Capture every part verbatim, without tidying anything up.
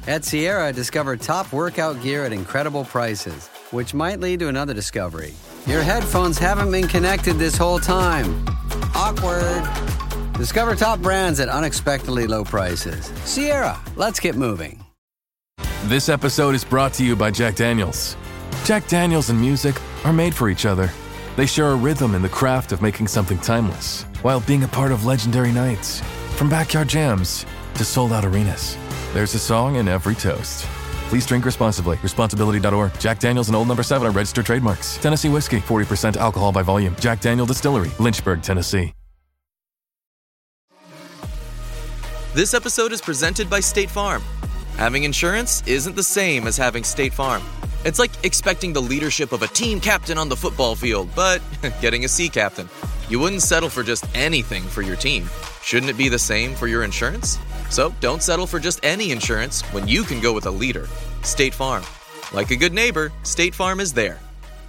At Sierra, discover top workout gear at incredible prices, which might lead to another discovery. Your headphones haven't been connected this whole time. Awkward. Discover top brands at unexpectedly low prices. Sierra, let's get moving. This episode is brought to you by Jack Daniels. Jack Daniels and music are made for each other. They share a rhythm in the craft of making something timeless, while being a part of legendary nights. From backyard jams to sold-out arenas, there's a song in every toast. Please drink responsibly. Responsibility dot org. Jack Daniels and Old Number seven are registered trademarks. Tennessee whiskey, forty percent alcohol by volume. Jack Daniel Distillery, Lynchburg, Tennessee. This episode is presented by State Farm. Having insurance isn't the same as having State Farm. It's like expecting the leadership of a team captain on the football field, but getting a sea captain. You wouldn't settle for just anything for your team. Shouldn't it be the same for your insurance? So don't settle for just any insurance when you can go with a leader. State Farm. Like a good neighbor, State Farm is there.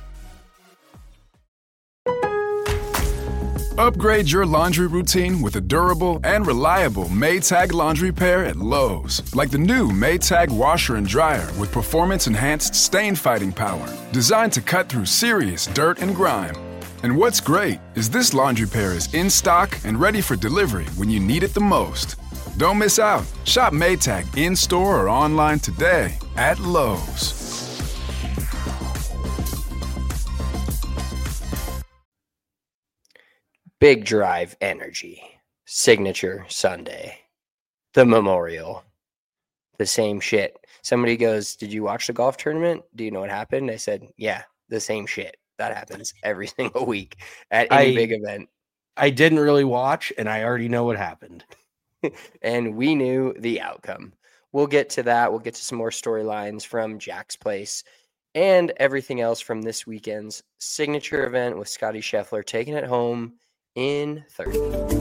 Upgrade your laundry routine with a durable and reliable Maytag laundry pair at Lowe's. Like the new Maytag washer and dryer with performance-enhanced stain-fighting power. Designed to cut through serious dirt and grime. And what's great is this laundry pair is in stock and ready for delivery when you need it the most. Don't miss out. Shop Maytag in-store or online today at Lowe's. Big Drive Energy, Signature Sunday, the Memorial, the same shit. Somebody goes, did you watch the golf tournament? Do you know what happened? I said, yeah, the same shit. That happens every single week at any I, big event. I didn't really watch, and I already know what happened. And we knew the outcome. We'll get to that. We'll get to some more storylines from Jack's Place and everything else from this weekend's signature event with Scotty Scheffler taking it home in third.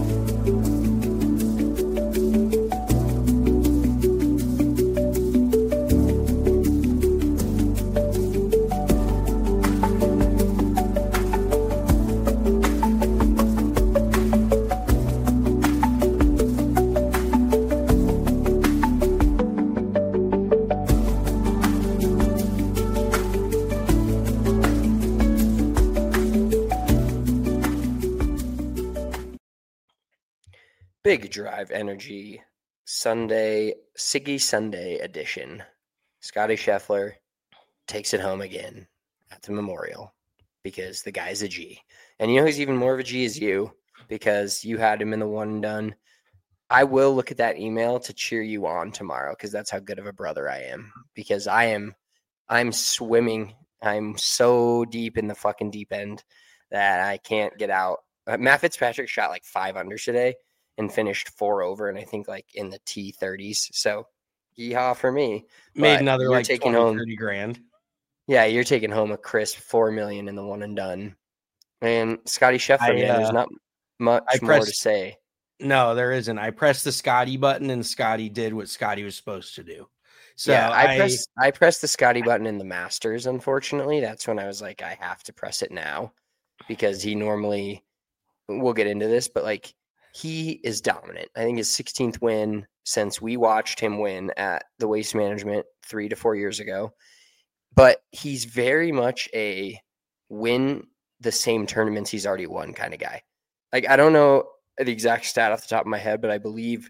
Big Drive Energy Sunday, Siggy Sunday edition. Scotty Scheffler takes it home again at the Memorial because the guy's a G. And you know who's even more of a G is you, because you had him in the one and done. I will look at that email to cheer you on tomorrow because that's how good of a brother I am. Because I am, I'm swimming. I'm so deep in the fucking deep end that I can't get out. Uh, Matt Fitzpatrick shot like five under today and finished four over, and I think like in the T thirties. So, yeehaw for me. Made but another like taking twenty, home thirty grand. Yeah, you're taking home a crisp four million in the one and done. And Scotty Scheffler, I, man, uh, there's not much I more pressed, to say. No, there isn't. I pressed the Scotty button, and Scotty did what Scotty was supposed to do. So yeah, I, I pressed I pressed the Scotty button in the Masters. Unfortunately, that's when I was like, I have to press it now because he normally. We'll get into this, but like. He is dominant. I think his sixteenth win since we watched him win at the Waste Management three to four years ago. But he's very much a win the same tournaments he's already won kind of guy. Like, I don't know the exact stat off the top of my head, but I believe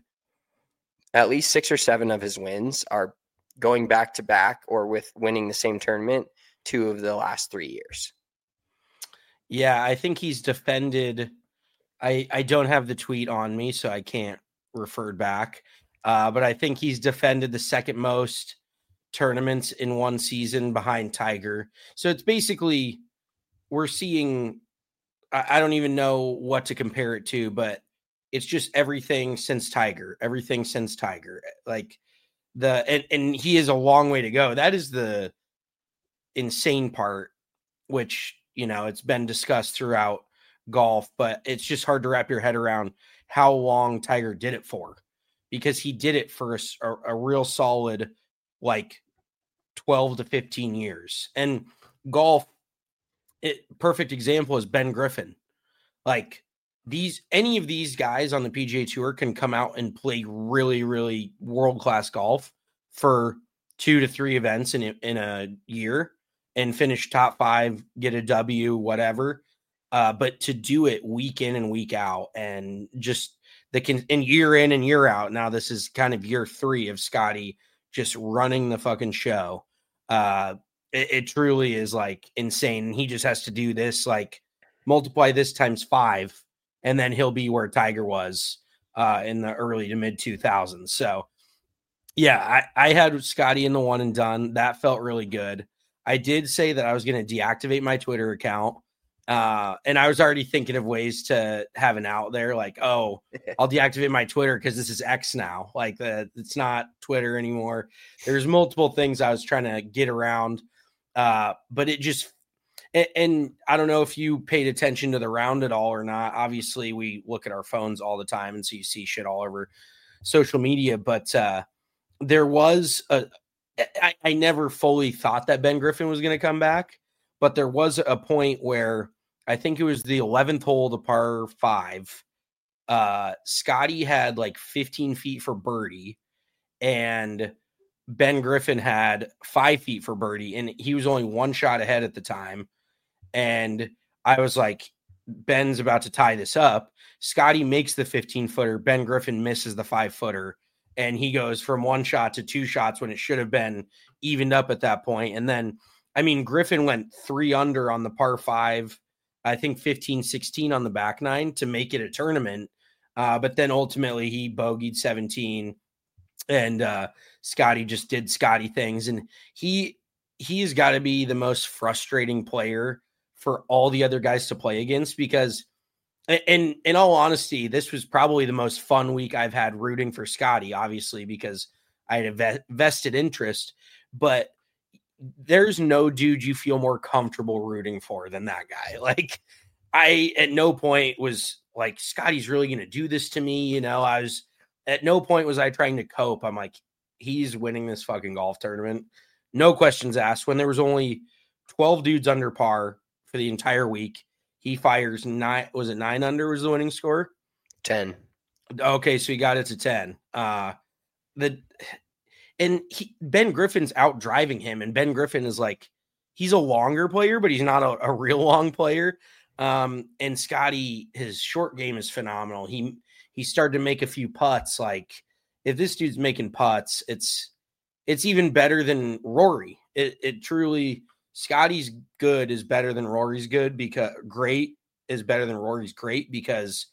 at least six or seven of his wins are going back to back or with winning the same tournament two of the last three years. Yeah, I think he's defended – I, I don't have the tweet on me, so I can't refer back. Uh, but I think he's defended the second most tournaments in one season behind Tiger. So it's basically we're seeing I, I don't even know what to compare it to, but it's just everything since Tiger, everything since Tiger. Like the and, and he is a long way to go. That is the insane part, which, you know, it's been discussed throughout golf, but it's just hard to wrap your head around how long Tiger did it for, because he did it for a, a real solid like twelve to fifteen years. And golf, it, perfect example is Ben Griffin. Like these, any of these guys on the P G A Tour can come out and play really, really world-class golf for two to three events in a, in a year and finish top five, get a W, whatever. Uh, but to do it week in and week out, and just the can and year in and year out. Now this is kind of year three of Scotty just running the fucking show. Uh, it, it truly is like insane. He just has to do this, like multiply this times five, and then he'll be where Tiger was uh, in the early to mid two thousands. So yeah, I, I had Scotty in the one and done. That felt really good. I did say that I was going to deactivate my Twitter account. Uh, and I was already thinking of ways to have an out there, like, oh, I'll deactivate my Twitter because this is X now. Like, the, it's not Twitter anymore. There's multiple things I was trying to get around. Uh, but it just, and, and I don't know if you paid attention to the round at all or not. Obviously, we look at our phones all the time, and so you see shit all over social media. But uh, there was a, I, I never fully thought that Ben Griffin was going to come back, but there was a point where I think it was the eleventh hole, the par five. Uh, Scotty had like fifteen feet for birdie, and Ben Griffin had five feet for birdie, and he was only one shot ahead at the time. And I was like, Ben's about to tie this up. Scotty makes the fifteen footer. Ben Griffin misses the five footer, and he goes from one shot to two shots when it should have been evened up at that point. And then, I mean, Griffin went three under on the par five, I think fifteen, sixteen on the back nine to make it a tournament. Uh, but then ultimately he bogeyed seventeen, and uh, Scotty just did Scotty things. And he, he's got to be the most frustrating player for all the other guys to play against, because and in all honesty, this was probably the most fun week I've had rooting for Scotty, obviously, because I had a ve- vested interest, but there's no dude you feel more comfortable rooting for than that guy. Like, I at no point was like, Scotty's really going to do this to me. You know, I was at no point was I trying to cope. I'm like, he's winning this fucking golf tournament. No questions asked. When there was only twelve dudes under par for the entire week, he fires nine. Was it nine under was the winning score? ten. Okay. So he got it to ten. Uh, the, And he, Ben Griffin's out driving him, and Ben Griffin is like, he's a longer player, but he's not a, a real long player. Um, and Scotty, his short game is phenomenal. He he started to make a few putts. Like, if this dude's making putts, it's it's even better than Rory. It it truly, Scotty's good is better than Rory's good, because great is better than Rory's great, because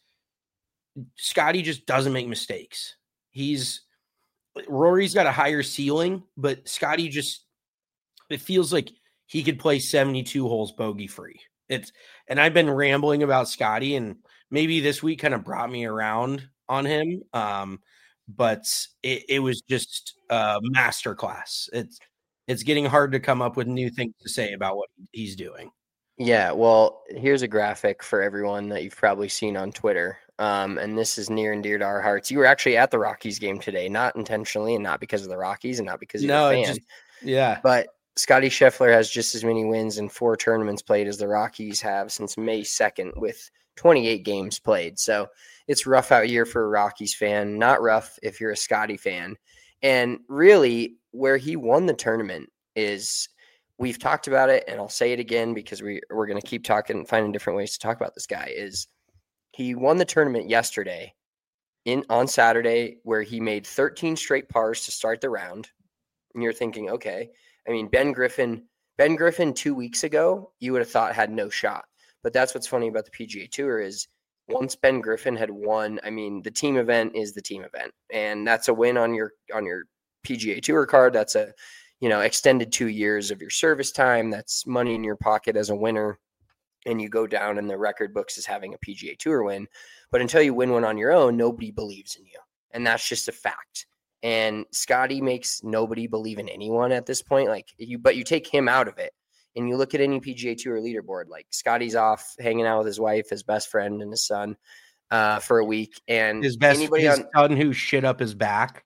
Scotty just doesn't make mistakes. He's Rory's got a higher ceiling, but Scotty just, it feels like he could play seventy-two holes bogey free. It's, and I've been rambling about Scotty, and maybe this week kind of brought me around on him. Um, but it, it was just a masterclass. It's, it's getting hard to come up with new things to say about what he's doing. Yeah, well, here's a graphic for everyone that you've probably seen on Twitter. Um, and this is near and dear to our hearts. You were actually at the Rockies game today, not intentionally and not because of the Rockies and not because you're no, a fan. Just, yeah. But Scotty Scheffler has just as many wins in four tournaments played as the Rockies have since May second, with twenty-eight games played. So it's rough out year for a Rockies fan, not rough if you're a Scotty fan. And really, where he won the tournament is, we've talked about it, and I'll say it again because we, we're going to keep talking, finding different ways to talk about this guy, is he won the tournament yesterday in on Saturday, where he made thirteen straight pars to start the round. And you're thinking, okay, I mean, Ben Griffin, Ben Griffin two weeks ago, you would have thought had no shot. But that's what's funny about the P G A Tour is once Ben Griffin had won, I mean, the team event is the team event, and that's a win on your on your P G A Tour card. That's a, you know, extended two years of your service time. That's money in your pocket as a winner. And you go down in the record books as having a P G A Tour win. But until you win one on your own, nobody believes in you. And that's just a fact. And Scotty makes nobody believe in anyone at this point. Like you, but you take him out of it and you look at any P G A Tour leaderboard, like Scotty's off hanging out with his wife, his best friend, and his son uh, for a week. And his best anybody his on, son who shit up his back.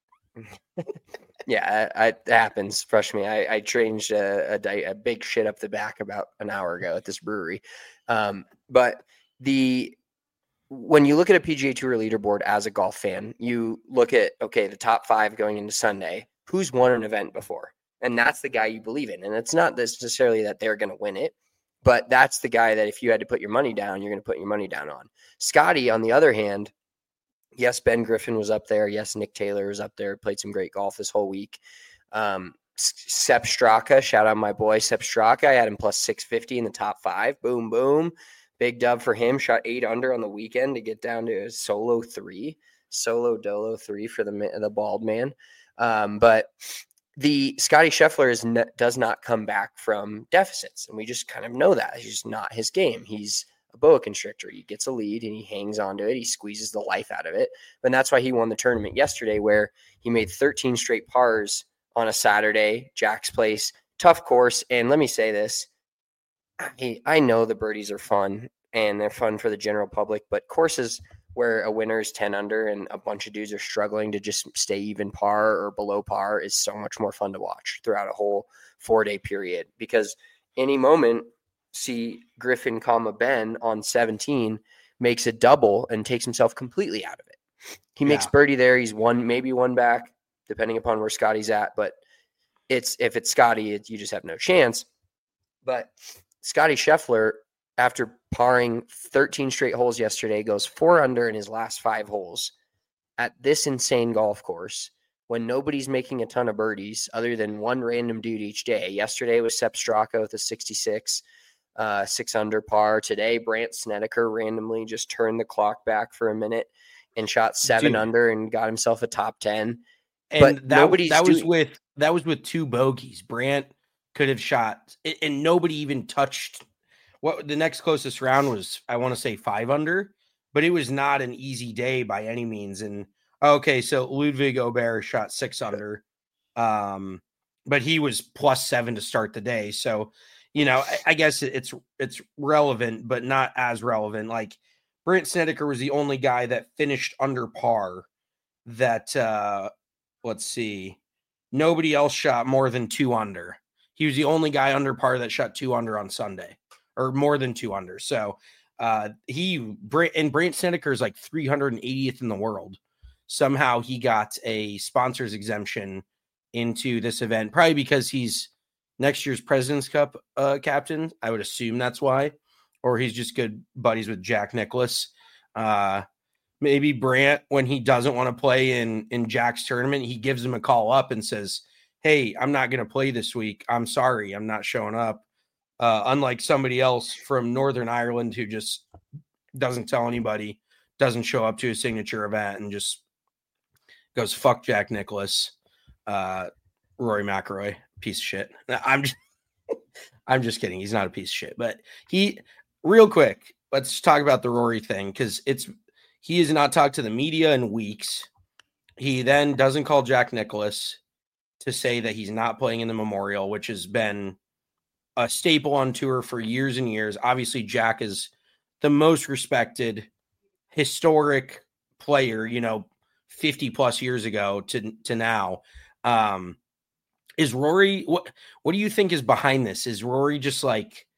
Yeah, I, I, it happens. Trust me. I, I changed a, a, a big shit up the back about an hour ago at this brewery. Um, but the when you look at a P G A Tour leaderboard as a golf fan, you look at, okay, the top five going into Sunday. who's won an event before. And that's the guy you believe in. And it's not necessarily that they're going to win it, but that's the guy that if you had to put your money down, you're going to put your money down on. Scotty, on the other hand, yes, Ben Griffin was up there. Yes, Nick Taylor was up there. Played some great golf this whole week. Um, Sepp Straka, shout out my boy Sepp Straka. I had him plus six fifty in the top five. Boom, boom. Big dub for him. Shot eight under on the weekend to get down to a solo three. Solo dolo three for the the bald man. Um, but the Scotty Scheffler is ne- does not come back from deficits. And we just kind of know that. It's just not his game. He's a boa constrictor. He gets a lead and he hangs onto it. He squeezes the life out of it. And that's why he won the tournament yesterday, where he made thirteen straight pars on a Saturday, Jack's Place, tough course. And let me say this. I, I know the birdies are fun and they're fun for the general public, but courses where a winner is ten under and a bunch of dudes are struggling to just stay even par or below par is so much more fun to watch throughout a whole four-day period. Because any moment, see Griffin, comma Ben on seventeen makes a double and takes himself completely out of it. He yeah. makes birdie there. He's one, maybe one back, depending upon where Scotty's at. But it's if it's Scotty, it, you just have no chance. But Scotty Scheffler, after parring thirteen straight holes yesterday, goes four under in his last five holes at this insane golf course when nobody's making a ton of birdies other than one random dude each day. Yesterday was Sepp Straka with a sixty-six, uh, six under par. Today, Brandt Snedeker randomly just turned the clock back for a minute and shot seven dude. under and got himself a top ten. And but that, nobody's that was doing... with that was with two bogeys. Brandt could have shot, and nobody even touched. What the next closest round was, I want to say five under, but it was not an easy day by any means. And okay, so Ludwig Aubert shot six under, um, but he was plus seven to start the day. So, you know, I, I guess it's it's relevant, but not as relevant. Like Brandt Snedeker was the only guy that finished under par. That uh, let's see, nobody else shot more than two under. He was the only guy under par that shot two under on Sunday, or more than two under. So uh, he and Brandt Snedeker is like three hundred eightieth in the world. Somehow he got a sponsors exemption into this event, probably because he's next year's President's Cup uh, captain. I would assume that's why, or he's just good buddies with Jack Nicklaus. Uh, maybe Brandt, when he doesn't want to play in in Jack's tournament, he gives him a call up and says, "Hey, I'm not going to play this week. I'm sorry, I'm not showing up." Uh, unlike somebody else from Northern Ireland who just doesn't tell anybody, doesn't show up to a signature event and just goes, fuck Jack Nicklaus, uh, Rory McIlroy, piece of shit. I'm just, I'm just kidding. He's not a piece of shit, but he, real quick, let's talk about the Rory thing. Cause it's, he has not talked to the media in weeks. He then doesn't call Jack Nicklaus to say that he's not playing in the Memorial, which has been a staple on tour for years and years. Obviously, Jack is the most respected, historic player, you know, fifty plus years ago to, to now. Um, is Rory, what, what do you think is behind this? Is Rory just like,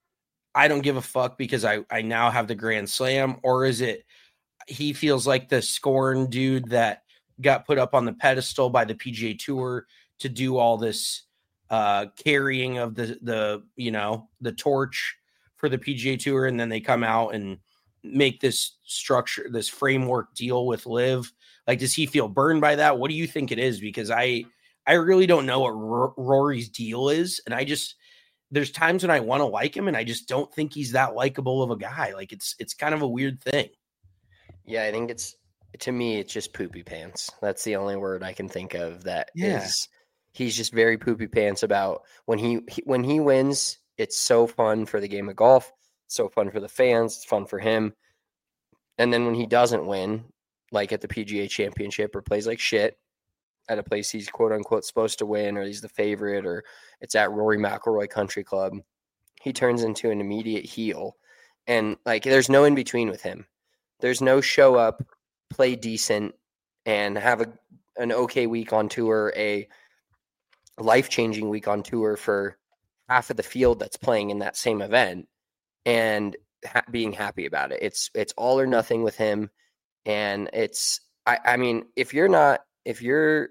I don't give a fuck because I, I now have the Grand Slam? Or is it, he feels like the scorn dude that got put up on the pedestal by the P G A Tour to do all this uh, carrying of the, the, you know, the torch for the P G A Tour. And then they come out and make this structure, this framework deal with Liv. Like, does he feel burned by that? What do you think it is? Because I, I really don't know what R- Rory's deal is. And I just, there's times when I want to like him and I just don't think he's that likable of a guy. Like it's, it's kind of a weird thing. Yeah. I think it's, to me, it's just poopy pants. That's the only word I can think of that yeah. is, he's just very poopy pants about when he, he when he wins, it's so fun for the game of golf. It's so fun for the fans. It's fun for him. And then when he doesn't win, like at the P G A Championship or plays like shit at a place he's quote unquote supposed to win, or he's the favorite, or it's at Rory McIlroy Country Club, he turns into an immediate heel. And like, there's no in between with him. There's no show up, play decent, and have a an okay week on tour, a life-changing week on tour for half of the field that's playing in that same event, and ha- being happy about it. It's it's all or nothing with him. And it's, I, I mean, if you're not, if you're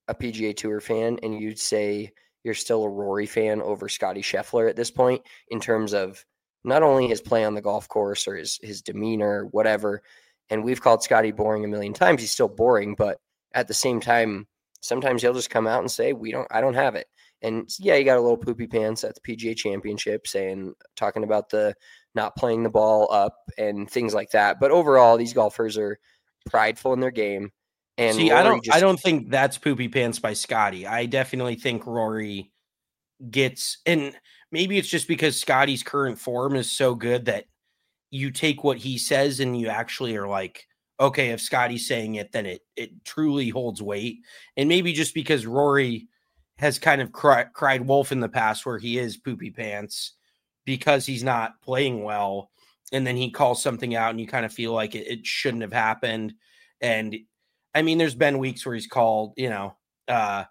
a P G A Tour fan and you'd say you're still a Rory fan over Scotty Scheffler at this point in terms of not only his play on the golf course or his, his demeanor, whatever. And we've called Scotty boring a million times. He's still boring, but at the same time, sometimes he'll just come out and say, we don't, I don't have it. And yeah, you got a little poopy pants at the P G A Championship saying, talking about the not playing the ball up and things like that. But overall, these golfers are prideful in their game. And see, Rory I don't, just, I don't think that's poopy pants by Scotty. I definitely think Rory gets, and maybe it's just because Scotty's current form is so good that you take what he says and you actually are like, okay, if Scotty's saying it, then it it truly holds weight. And maybe just because Rory has kind of cry, cried wolf in the past where he is poopy pants because he's not playing well. And then he calls something out and you kind of feel like it, it shouldn't have happened. And I mean, there's been weeks where he's called, you know, uh,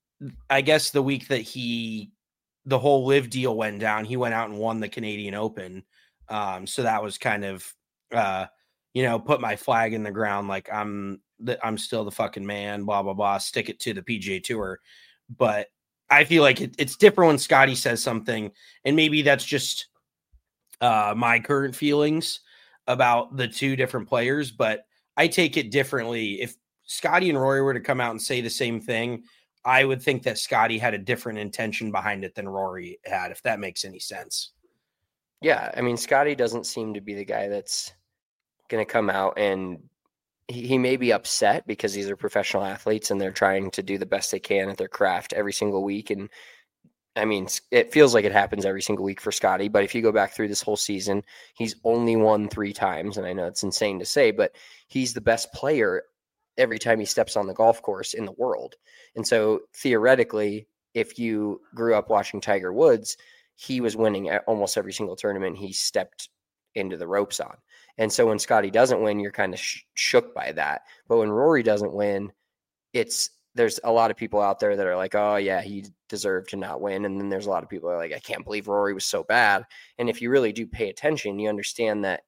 I guess the week that he, the whole live deal went down, he went out and won the Canadian Open. Um, so that was kind of, uh, you know, put my flag in the ground. Like I'm, the, I'm still the fucking man, blah, blah, blah, stick it to the P G A Tour. But I feel like it, it's different when Scotty says something, and maybe that's just uh, my current feelings about the two different players, but I take it differently. If Scotty and Rory were to come out and say the same thing, I would think that Scotty had a different intention behind it than Rory had, if that makes any sense. Yeah, I mean, Scotty doesn't seem to be the guy that's going to come out and he, he may be upset because these are professional athletes and they're trying to do the best they can at their craft every single week. And I mean, it feels like it happens every single week for Scotty, but if you go back through this whole season, he's only won three times. And I know it's insane to say, but he's the best player every time he steps on the golf course in the world. And so theoretically, if you grew up watching Tiger Woods, he was winning at almost every single tournament he stepped into the ropes on. And so when Scotty doesn't win, you're kind of sh- shook by that. But when Rory doesn't win, it's, there's a lot of people out there that are like, oh yeah, he deserved to not win. And then there's a lot of people that are like, I can't believe Rory was so bad. And if you really do pay attention, you understand that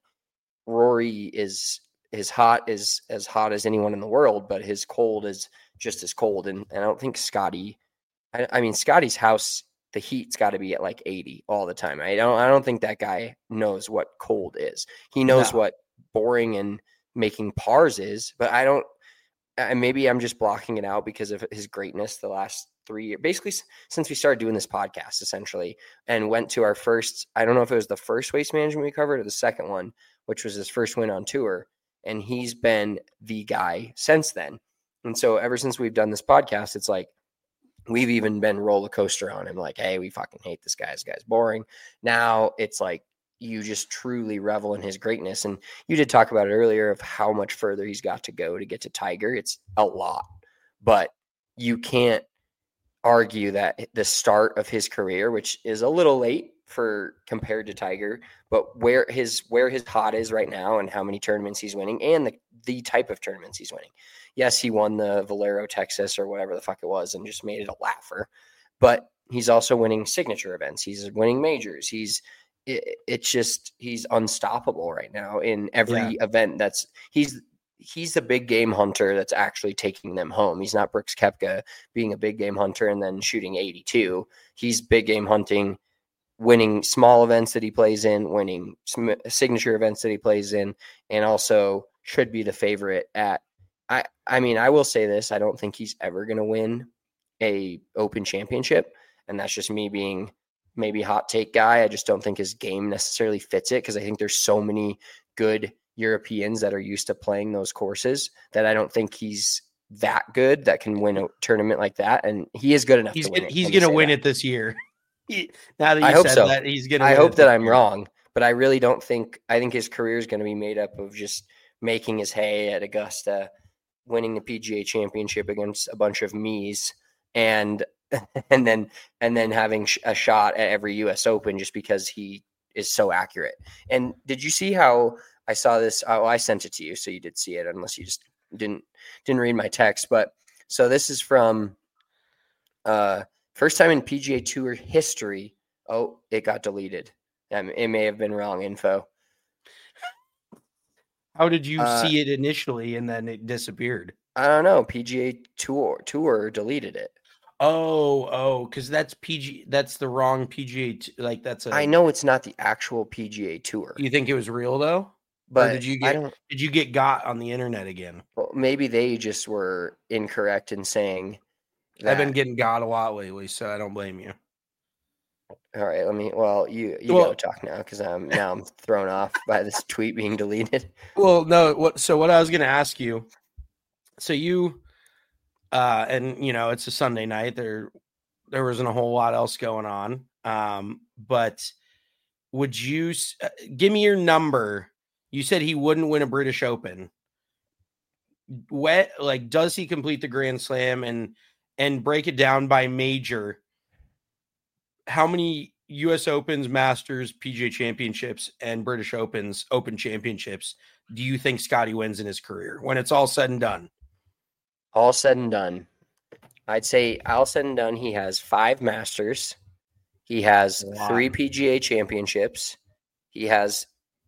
Rory is his hot is as hot as anyone in the world, but his cold is just as cold. And, and I don't think Scotty, I, I mean, Scotty's house, the heat's got to be at like eighty all the time. I don't, I don't think that guy knows what cold is. He knows no. what boring and making pars is, but I don't, and maybe I'm just blocking it out because of his greatness the last three years, basically since we started doing this podcast essentially, and went to our first, I don't know if it was the first Waste Management we covered or the second one, which was his first win on tour. And he's been the guy since then. And so ever since we've done this podcast, it's like, we've even been roller coaster on him. Like, hey, we fucking hate this guy. This guy's boring. Now it's like, you just truly revel in his greatness. And you did talk about it earlier of how much further he's got to go to get to Tiger. It's a lot, but you can't argue that the start of his career, which is a little late for compared to Tiger, but where his, where his hot is right now and how many tournaments he's winning and the, the type of tournaments he's winning. Yes, he won the Valero Texas or whatever the fuck it was and just made it a laugher, but he's also winning signature events. He's winning majors. He's, it, it's just, he's unstoppable right now in every yeah. event. That's he's, he's the big game hunter that's actually taking them home. He's not Brooks Koepka being a big game hunter and then shooting eighty-two. He's big game hunting, winning small events that he plays in, winning some signature events that he plays in, and also should be the favorite at, I, I mean, I will say this. I don't think he's ever going to win a Open Championship. And that's just me being maybe hot take guy. I just don't think his game necessarily fits it because I think there's so many good Europeans that are used to playing those courses that I don't think he's that good that can win a tournament like that. And he is good enough he's to win gonna, it. He's going to win that. it this year. He, now that you I hope said so. that, he's going to I hope that I'm year. wrong, but I really don't think, I think his career is going to be made up of just making his hay at Augusta, winning the P G A Championship against a bunch of me's, and and then and then having a shot at every U S Open just because he is so accurate. And did you see how I saw this? Oh, I sent it to you, so you did see it, unless you just didn't didn't read my text. But so this is from uh, first time in P G A Tour history. Oh, it got deleted. Um, it may have been wrong info. How did you uh, see it initially and then it disappeared? I don't know. P G A Tour Tour deleted it. Oh, oh, because that's P G. That's the wrong P G A. T- like that's a. I know it's not the actual P G A Tour. You think it was real though? But or did you I get? don't, did you get got on the internet again? well, maybe they just were incorrect in saying that. I've been getting got a lot lately, so I don't blame you. All right, let me. Well, you you Well- go talk now because I'm now I'm thrown off by this tweet being deleted. Well, no. What? So what I was going to ask you. So you, uh, and you know, it's a Sunday night. There, there wasn't a whole lot else going on. Um, but would you s- uh, give me your number? You said he wouldn't win a British Open. What, like, does he complete the Grand Slam and and break it down by major? How many U S Opens, Masters, P G A Championships, and British Opens, Open Championships do you think Scotty wins in his career when it's all said and done? All said and done, I'd say all said and done, he has five Masters. He has Wow. three P G A Championships. He has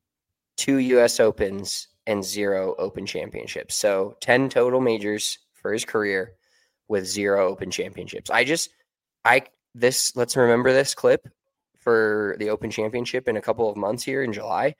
two U S Opens and zero Open Championships. So ten total majors for his career with zero Open Championships. I just, I, this, let's remember this clip for the Open Championship in a couple of months here in July.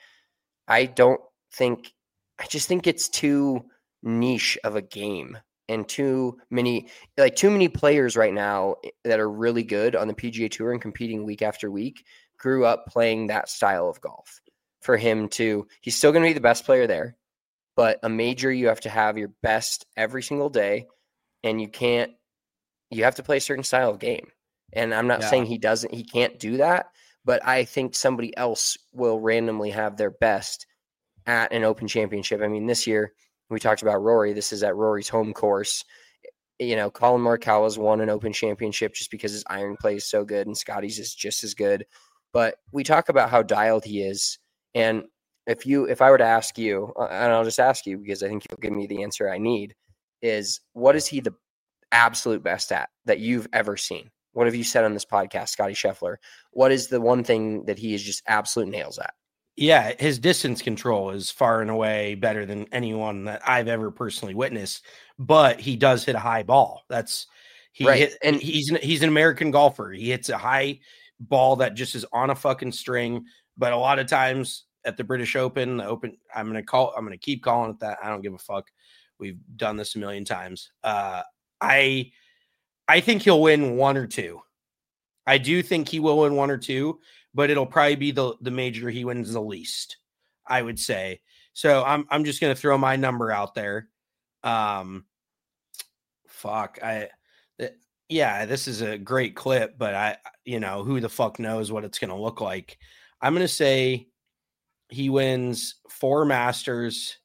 I don't think, I just think it's too niche of a game and too many, like too many players right now that are really good on the P G A Tour and competing week after week grew up playing that style of golf. For him to, he's still going to be the best player there, but a major, you have to have your best every single day, and you can't, you have to play a certain style of game. And I'm not Yeah. saying he doesn't, he can't do that, but I think somebody else will randomly have their best at an Open Championship. I mean, this year we talked about Rory. This is at Rory's home course. You know, Colin Morikawa's won an Open Championship just because his iron play is so good, and Scotty's is just as good. But we talk about how dialed he is. And if you, if I were to ask you, uh, and I'll just ask you because I think you'll give me the answer I need, is what is he the absolute best at that you've ever seen? What have you said on this podcast, Scotty Scheffler? What is the one thing that he is just absolute nails at? Yeah, his distance control is far and away better than anyone that I've ever personally witnessed. But he does hit a high ball. That's he Right, hit, and- and he's an, he's an American golfer. He hits a high ball that just is on a fucking string. But a lot of times at the British Open, the Open, I'm gonna call, I'm gonna keep calling it that. I don't give a fuck. We've done this a million times. Uh, I I think he'll win one or two. I do think he will win one or two, but it'll probably be the the major he wins the least, I would say. So I'm I'm just gonna throw my number out there. Um, fuck, I, th- yeah, this is a great clip, but I, you know, who the fuck knows what it's gonna look like. I'm gonna say he wins four Masters.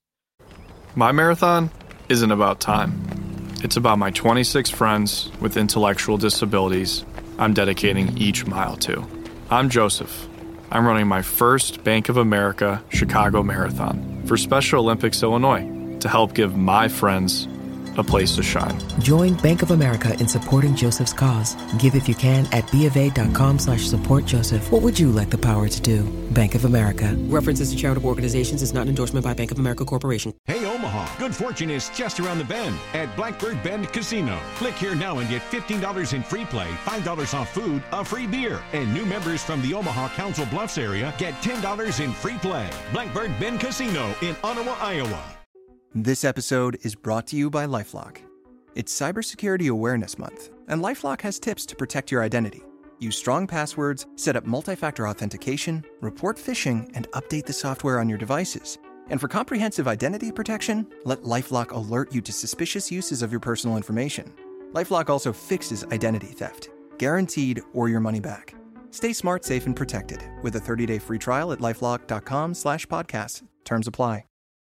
My marathon isn't about time. It's about my twenty-six friends with intellectual disabilities I'm dedicating each mile to. I'm Joseph. I'm running my first Bank of America Chicago Marathon for Special Olympics Illinois to help give my friends a place to shine. Join Bank of America in supporting Joseph's cause. Give if you can at BofA.com slash support Joseph. What would you like the power to do? Bank of America. References to charitable organizations is not an endorsement by Bank of America Corporation. Hey, Omaha, good fortune is just around the bend at Blackbird Bend Casino. Click here now and get fifteen dollars in free play, five dollars off food, a free beer. And new members from the Omaha Council Bluffs area get ten dollars in free play. Blackbird Bend Casino in Ottawa, Iowa. This episode is brought to you by LifeLock. It's Cybersecurity Awareness Month, and LifeLock has tips to protect your identity. Use strong passwords, set up multi-factor authentication, report phishing, and update the software on your devices. And for comprehensive identity protection, let LifeLock alert you to suspicious uses of your personal information. LifeLock also fixes identity theft, guaranteed or your money back. Stay smart, safe, and protected with a thirty-day free trial at LifeLock.com slash podcast. Terms apply.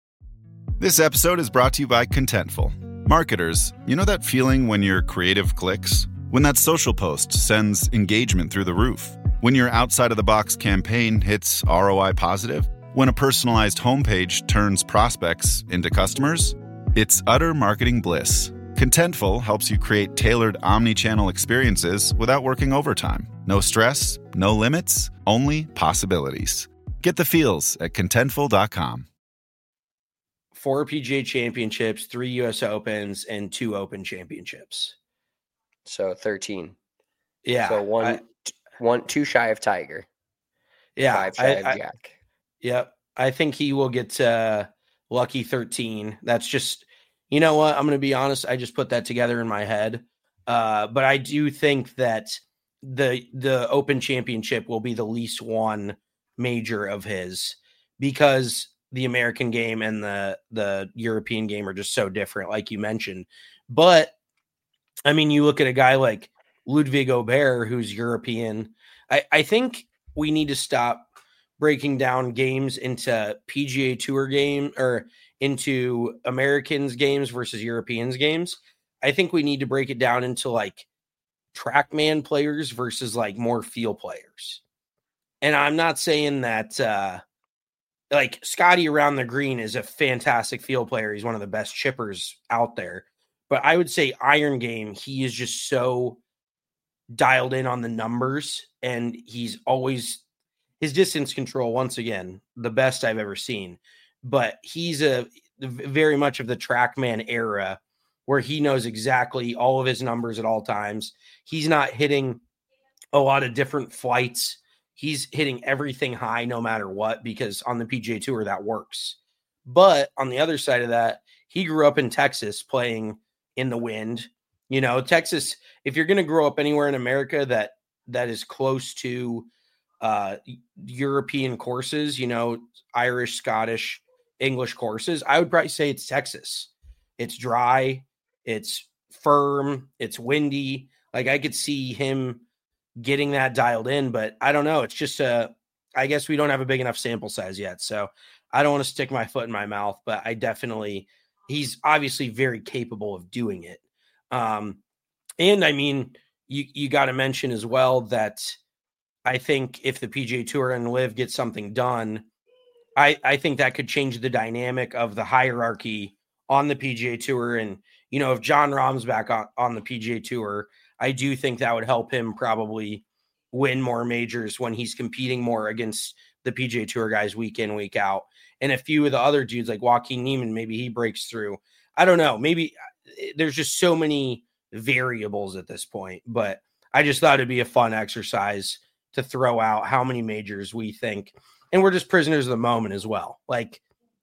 This episode is brought to you by Contentful. Marketers, you know that feeling when your creative clicks? When that social post sends engagement through the roof? When your outside-of-the-box campaign hits R O I positive? When a personalized homepage turns prospects into customers? It's utter marketing bliss. Contentful helps you create tailored omni-channel experiences without working overtime. No stress, no limits, only possibilities. Get the feels at contentful dot com. four P G A championships, three U S Opens, and two Open championships. So thirteen. Yeah. So one, I, one, two shy of Tiger. Yeah. Five shy I, of I, Jack. Yep. I think he will get uh, lucky thirteen. That's just, you know what? I'm going to be honest. I just put that together in my head. Uh, but I do think that the the Open Championship will be the least won major of his, because the American game and the the European game are just so different, like you mentioned. But I mean, you look at a guy like Ludwig Aubert, who's European. I, I think we need to stop breaking down games into P G A Tour game or into Americans games versus Europeans games. I think we need to break it down into like TrackMan players versus like more field players. And I'm not saying that uh, like Scotty around the green is a fantastic field player. He's one of the best chippers out there. But I would say iron game, he is just so dialed in on the numbers, and he's always his distance control, once again, the best I've ever seen. But he's a very much of the TrackMan era, where he knows exactly all of his numbers at all times. He's not hitting a lot of different flights. He's hitting everything high no matter what, because on the P G A Tour that works. But on the other side of that, he grew up in Texas playing in the wind. You know, Texas, if you're going to grow up anywhere in America that that is close to uh, European courses, you know, Irish, Scottish, English courses, I would probably say it's Texas. It's dry. It's firm. It's windy. Like, I could see him getting that dialed in, but I don't know. It's just a, I guess we don't have a big enough sample size yet. So I don't want to stick my foot in my mouth, but I definitely, he's obviously very capable of doing it. Um, and I mean, you, you got to mention as well that I think if the P G A Tour and Liv get something done, I, I think that could change the dynamic of the hierarchy on the P G A Tour. And, you know, if Jon Rahm's back on, on the P G A Tour, I do think that would help him probably win more majors when he's competing more against the P G A Tour guys week in, week out. And a few of the other dudes like Joaquin Niemann, maybe he breaks through. I don't know. Maybe there's just so many variables at this point, but I just thought it'd be a fun exercise to throw out how many majors we think. And we're just prisoners of the moment as well. Like,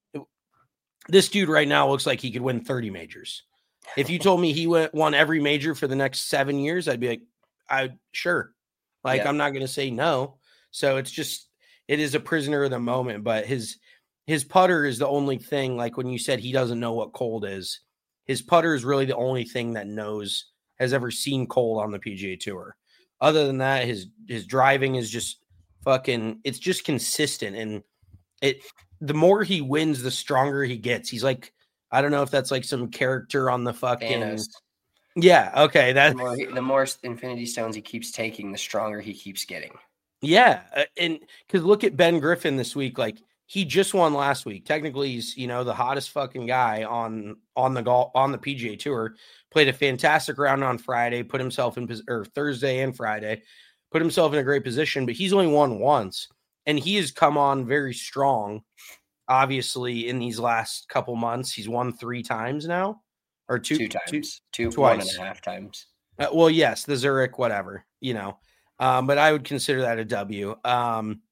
this dude right now looks like he could win thirty majors. If you told me he went, won every major for the next seven years, I'd be like, I sure. Like, yeah. I'm not going to say no. So it's just, it is a prisoner of the moment, but his, his putter is the only thing. Like when you said he doesn't know what cold is, his putter is really the only thing that knows, has ever seen cold on the P G A Tour. Other than that, his, his driving is just fucking, it's just consistent. And it, the more he wins, the stronger he gets. He's like, I don't know if that's like some character on the fucking. Thanos. Yeah. Okay. That the more, he, the more Infinity Stones he keeps taking, the stronger he keeps getting. Yeah. And because look at Ben Griffin this week. Like, he just won last week. Technically, he's, you know, the hottest fucking guy on, on the golf, on the P G A Tour. Played a fantastic round on Friday, put himself in, or Thursday and Friday, put himself in a great position, but he's only won once. And he has come on very strong. Obviously, in these last couple months, he's won three times now, or two, two times, two, two twice. one and a half times. Uh, well, yes, the Zurich, whatever, you know, um, but I would consider that a W. Um,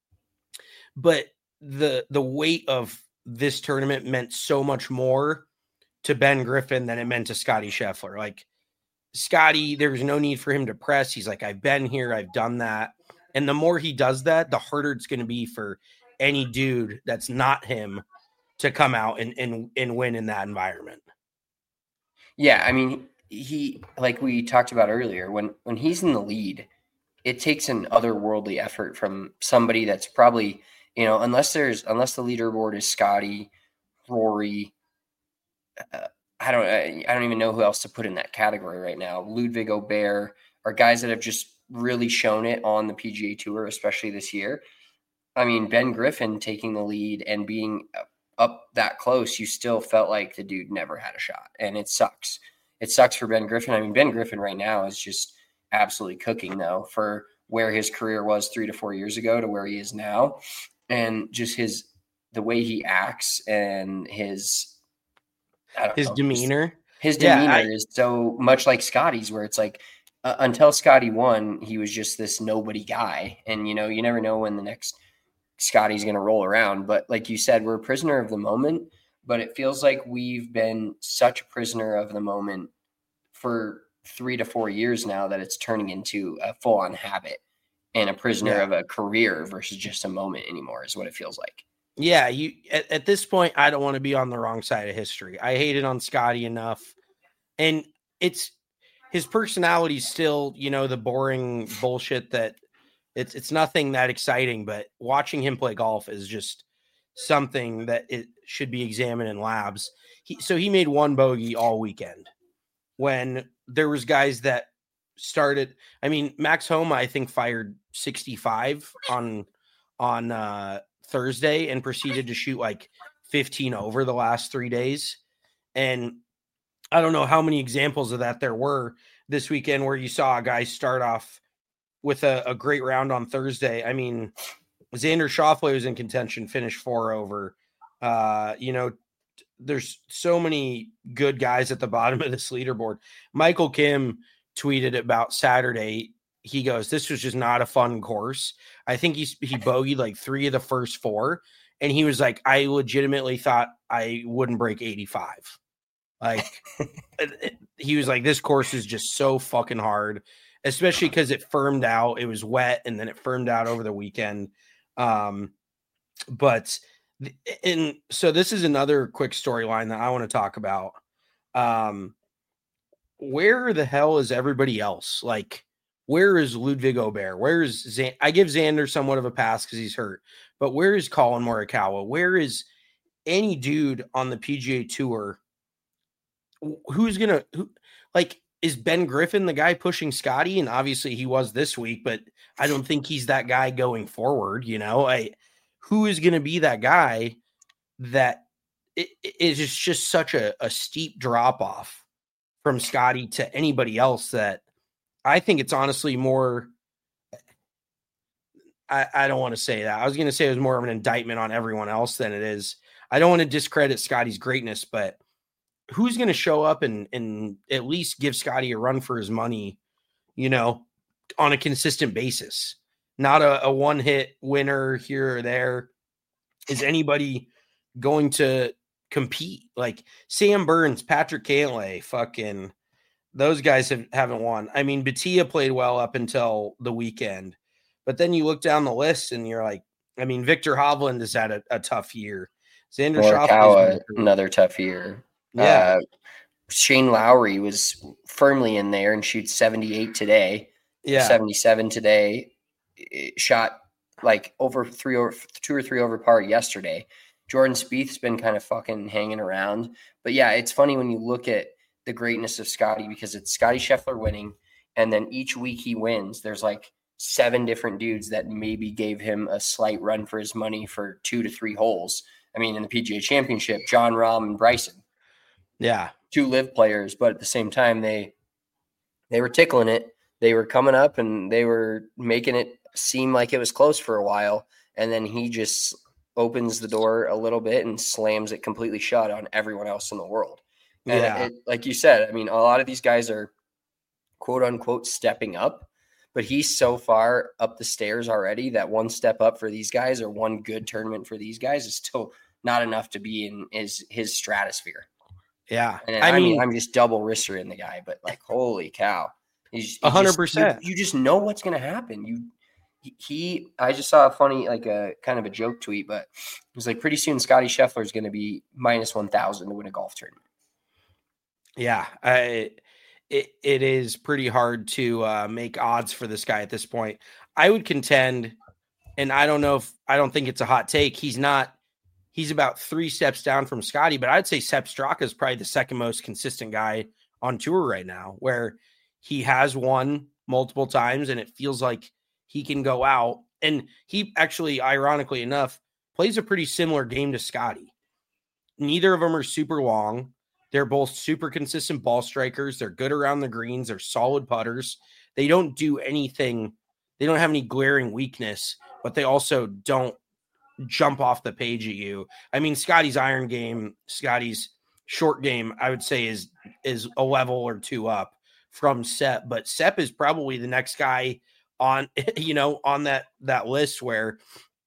but the the weight of this tournament meant so much more to Ben Griffin than it meant to Scotty Scheffler. Like, Scotty, there was no need for him to press. He's like, I've been here, I've done that, and the more he does that, the harder it's going to be for any dude that's not him to come out and, and, and win in that environment. Yeah. I mean, he, like we talked about earlier, when, when he's in the lead, it takes an otherworldly effort from somebody that's probably, you know, unless there's, unless the leaderboard is Scotty, Rory, uh, I don't, I, I don't even know who else to put in that category right now. Ludwig Aubert are guys that have just really shown it on the P G A Tour, especially this year. I mean, Ben Griffin taking the lead and being up that close, you still felt like the dude never had a shot. And it sucks. It sucks for Ben Griffin. I mean, Ben Griffin right now is just absolutely cooking, though, for where his career was three to four years ago to where he is now. And just his, the way he acts and his, his know, demeanor. His, his demeanor yeah, I, is so much like Scotty's, where it's like uh, until Scotty won, he was just this nobody guy, and you know you never know when the next Scotty's going to roll around. But like you said, we're a prisoner of the moment. But it feels like we've been such a prisoner of the moment for three to four years now that it's turning into a full-on habit and a prisoner yeah. of a career versus just a moment anymore is what it feels like. Yeah, you at, at this point, I don't want to be on the wrong side of history. I hated on Scotty enough. And it's his personality still, you know, the boring bullshit that it's it's nothing that exciting, but watching him play golf is just something that it should be examined in labs. He, so he made one bogey all weekend when there was guys that started. I mean, Max Homa, I think, fired sixty-five on, on uh, Thursday and proceeded to shoot like fifteen over the last three days. And I don't know how many examples of that there were this weekend where you saw a guy start off with a, a great round on Thursday. I mean, Xander Schauffele was in contention, finished four over. Uh, you know, there's so many good guys at the bottom of this leaderboard. Michael Kim tweeted about Saturday. He goes, this was just not a fun course. I think he, he bogeyed like three of the first four. And he was like, I legitimately thought I wouldn't break eighty-five. Like he was like, this course is just so fucking hard, especially because it firmed out. It was wet and then it firmed out over the weekend. Um, but and so this is another quick storyline that I want to talk about. Um, where the hell is everybody else? Like, where is Ludwig Aubert? Where is Zan- I give Xander somewhat of a pass because he's hurt, but where is Colin Morikawa? Where is any dude on the P G A Tour? Who's gonna who like is Ben Griffin the guy pushing Scotty? And obviously he was this week, but I don't think he's that guy going forward. You know, I who is gonna be that guy that it, it is just, just such a, a steep drop off from Scotty to anybody else that I think it's honestly more. I, I don't want to say that. I was gonna say it was more of an indictment on everyone else than it is. I don't want to discredit Scotty's greatness, but who's going to show up and, and at least give Scotty a run for his money, you know, on a consistent basis, not a, a one hit winner here or there. Is anybody going to compete? Like Sam Burns, Patrick Cantlay, fucking those guys have, haven't won. I mean, Batia played well up until the weekend, but then you look down the list and you're like, I mean, Victor Hovland has had a, a tough year. Xander Schauffele, another tough year. Yeah. Uh, Shane Lowry was firmly in there and shoots seventy-eight today. Yeah. seventy-seven today. It shot like over three or two or three over par yesterday. Jordan Spieth's been kind of fucking hanging around. But yeah, it's funny when you look at the greatness of Scotty because it's Scotty Scheffler winning. And then each week he wins, there's like seven different dudes that maybe gave him a slight run for his money for two to three holes. I mean, in the P G A Championship, John Rahm and Bryson. Yeah. Two live players, but at the same time, they they were tickling it. They were coming up and they were making it seem like it was close for a while. And then he just opens the door a little bit and slams it completely shut on everyone else in the world. And yeah. it, like you said, I mean, a lot of these guys are quote unquote stepping up, but he's so far up the stairs already that one step up for these guys or one good tournament for these guys is still not enough to be in his, his stratosphere. Yeah. And I, I mean, mean, I'm just double wrister in the guy, but like, holy cow. He's a hundred percent. You just know what's going to happen. You, he, I just saw a funny, like a kind of a joke tweet, but it was like pretty soon Scotty Scheffler is going to be minus one thousand to win a golf tournament. Yeah. I, it, it is pretty hard to uh, make odds for this guy at this point. I would contend, and I don't know if, I don't think it's a hot take. He's not, He's about three steps down from Scotty, but I'd say Sepp Straka is probably the second most consistent guy on tour right now, where he has won multiple times and it feels like he can go out. And he actually, ironically enough, plays a pretty similar game to Scotty. Neither of them are super long. They're both super consistent ball strikers. They're good around the greens. They're solid putters. They don't do anything. They don't have any glaring weakness, but they also don't jump off the page at you. I mean, Scotty's iron game, Scotty's short game, I would say is is a level or two up from Sepp. But Sepp is probably the next guy on, you know, on that that list where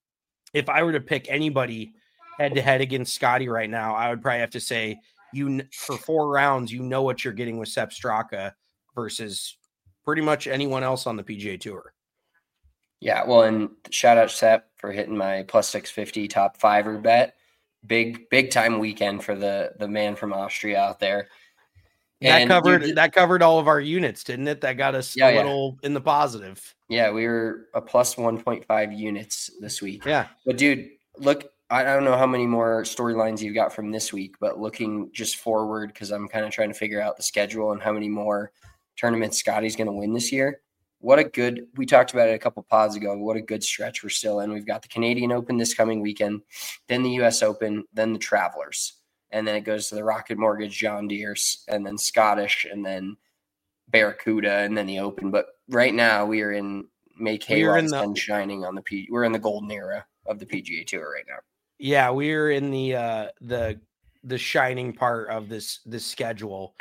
if I were to pick anybody head to head against Scotty right now, I would probably have to say you for four rounds, you know what you're getting with Sepp Straka versus pretty much anyone else on the P G A Tour. Yeah, well, and shout out Sepp for hitting my plus six fifty top fiver bet. Big, big time weekend for the the man from Austria out there. That And covered dude, that covered all of our units, didn't it? That got us Yeah, a yeah. little in the positive. Yeah, we were a plus one point five units this week. Yeah. But dude, look, I don't know how many more storylines you've got from this week, but looking just forward, because I'm kind of trying to figure out the schedule and how many more tournaments Scotty's going to win this year. What a good, we talked about it a couple pods ago. What a good stretch we're still in. We've got the Canadian Open this coming weekend, then the U S Open, then the Travelers. And then it goes to the Rocket Mortgage, John Deere's, and then Scottish, and then Barracuda, and then the Open. But right now we are in make hay We are while in the the- sun shining on the P. We're in the golden era of the P G A Tour right now. Yeah, we're in the uh the the shining part of this this schedule.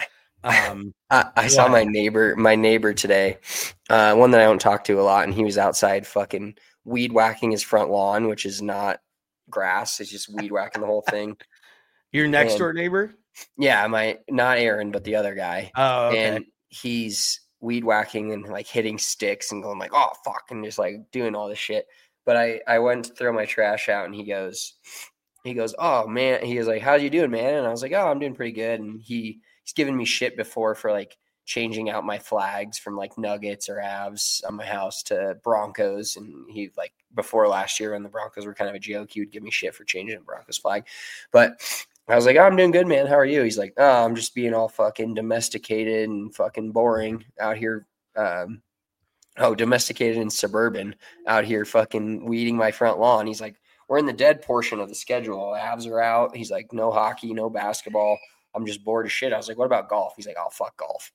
Um I, I saw What? my neighbor, my neighbor today, uh, one that I don't talk to a lot, and he was outside fucking weed whacking his front lawn, which is not grass; it's just weed whacking the whole thing. your next And- door neighbor? Yeah, my not Aaron, but the other guy. Oh, okay. And he's weed whacking and like hitting sticks and going like, "Oh fuck," and just like doing all this shit. But I I went to throw my trash out, and he goes, he goes, "Oh man," he was like, "How you doing, man?" And I was like, "Oh, I'm doing pretty good." And he he's given me shit before for like changing out my flags from like Nuggets or Avs on my house to Broncos. And he like before last year when the Broncos were kind of a joke, he would give me shit for changing a Broncos flag. But I was like, "Oh, I'm doing good, man. How are you?" He's like, "Oh, I'm just being all fucking domesticated and fucking boring out here." Um, oh, domesticated and suburban out here fucking weeding my front lawn. He's like, "We're in the dead portion of the schedule. Avs are out." He's like, "No hockey, no basketball. I'm just bored as shit." I was like, "What about golf?" He's like, "Oh, fuck golf."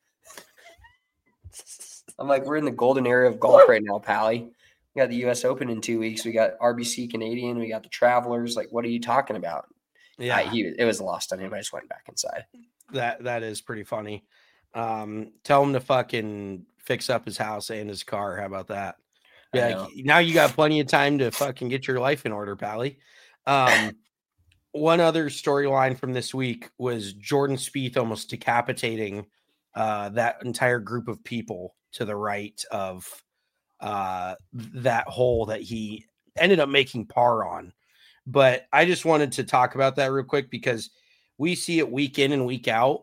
I'm like, "We're in the golden era of golf right now, Pally. We got the U S Open in two weeks. We got R B C Canadian. We got the Travelers. Like, what are you talking about?" Yeah, I, he, it was lost on him. I just went back inside. that that is pretty funny. Um, tell him to fucking fix up his house and his car. How about that? I Yeah, know. now you got plenty of time to fucking get your life in order, Pally. Um, one other storyline from this week was Jordan Spieth almost decapitating uh, that entire group of people to the right of uh, that hole that he ended up making par on. But I just wanted to talk about that real quick because we see it week in and week out.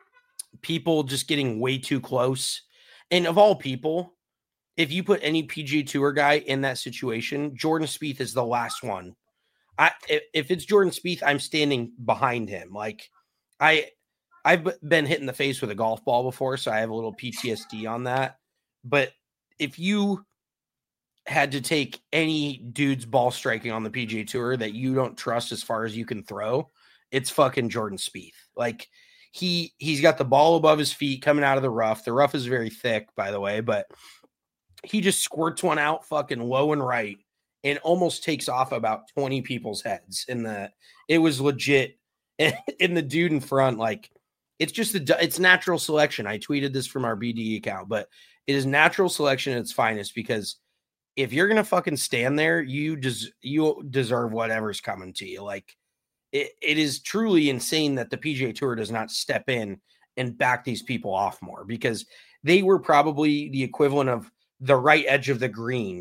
People just getting way too close. And of all people, if you put any P G A Tour guy in that situation, Jordan Spieth is the last one. I if, if it's Jordan Spieth, I'm standing behind him. Like I I've b- been hit in the face with a golf ball before, so I have a little P T S D on that. But if you had to take any dude's ball striking on the P G A Tour that you don't trust as far as you can throw, it's fucking Jordan Spieth. Like he he's got the ball above his feet coming out of the rough. The rough is very thick, by the way, but he just squirts one out fucking low and right and almost takes off about twenty people's heads. In the it was legit. In the dude in front, like it's just a, it's natural selection. I tweeted this from our B D E account, but it is natural selection at its finest because if you're gonna fucking stand there, you des- you deserve whatever's coming to you. Like it, it is truly insane that the P G A Tour does not step in and back these people off more because they were probably the equivalent of the right edge of the green,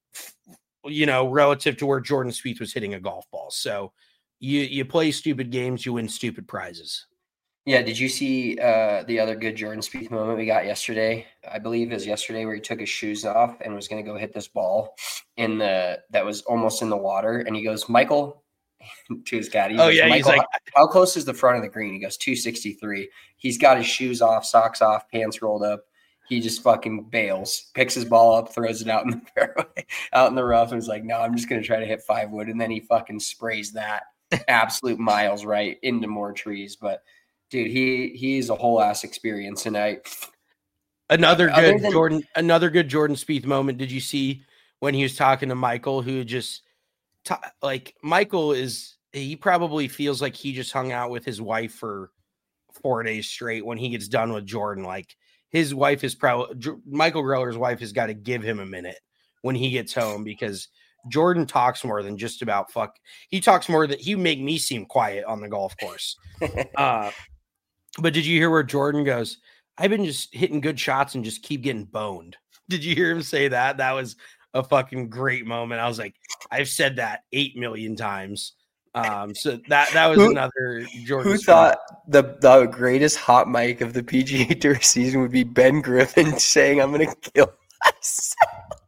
you know, relative to where Jordan Spieth was hitting a golf ball. So you you play stupid games, you win stupid prizes. Yeah, did you see uh, the other good Jordan Spieth moment we got yesterday? I believe it was yesterday where he took his shoes off and was going to go hit this ball in the that was almost in the water, and he goes, "Michael," to his caddy. He Oh, goes, yeah, he's "Michael, like- how, how close is the front of the green?" He goes, two sixty-three. He's got his shoes off, socks off, pants rolled up. He just fucking bails, picks his ball up, throws it out in the fairway, out in the rough, and is like, "No, I'm just going to try to hit five wood," and then he fucking sprays that absolute miles right into more trees, but. Dude, he he's a whole ass experience tonight. Another Other good than- Jordan, another good Jordan Spieth moment. Did you see when he was talking to Michael, who just ta- like Michael is he probably feels like he just hung out with his wife for four days straight when he gets done with Jordan. Like his wife is probably Michael Greller's wife has got to give him a minute when he gets home, because Jordan talks more than just about fuck. He talks more that he make me seem quiet on the golf course. uh, but did you hear where Jordan goes, I've been just hitting good shots and just keep getting boned. Did you hear him say that? That was a fucking great moment. I was like, I've said that eight million times. Um, so that that was who, another Jordan. Who thought the, the greatest hot mic of the P G A Tour season would be Ben Griffin saying, I'm going to kill myself?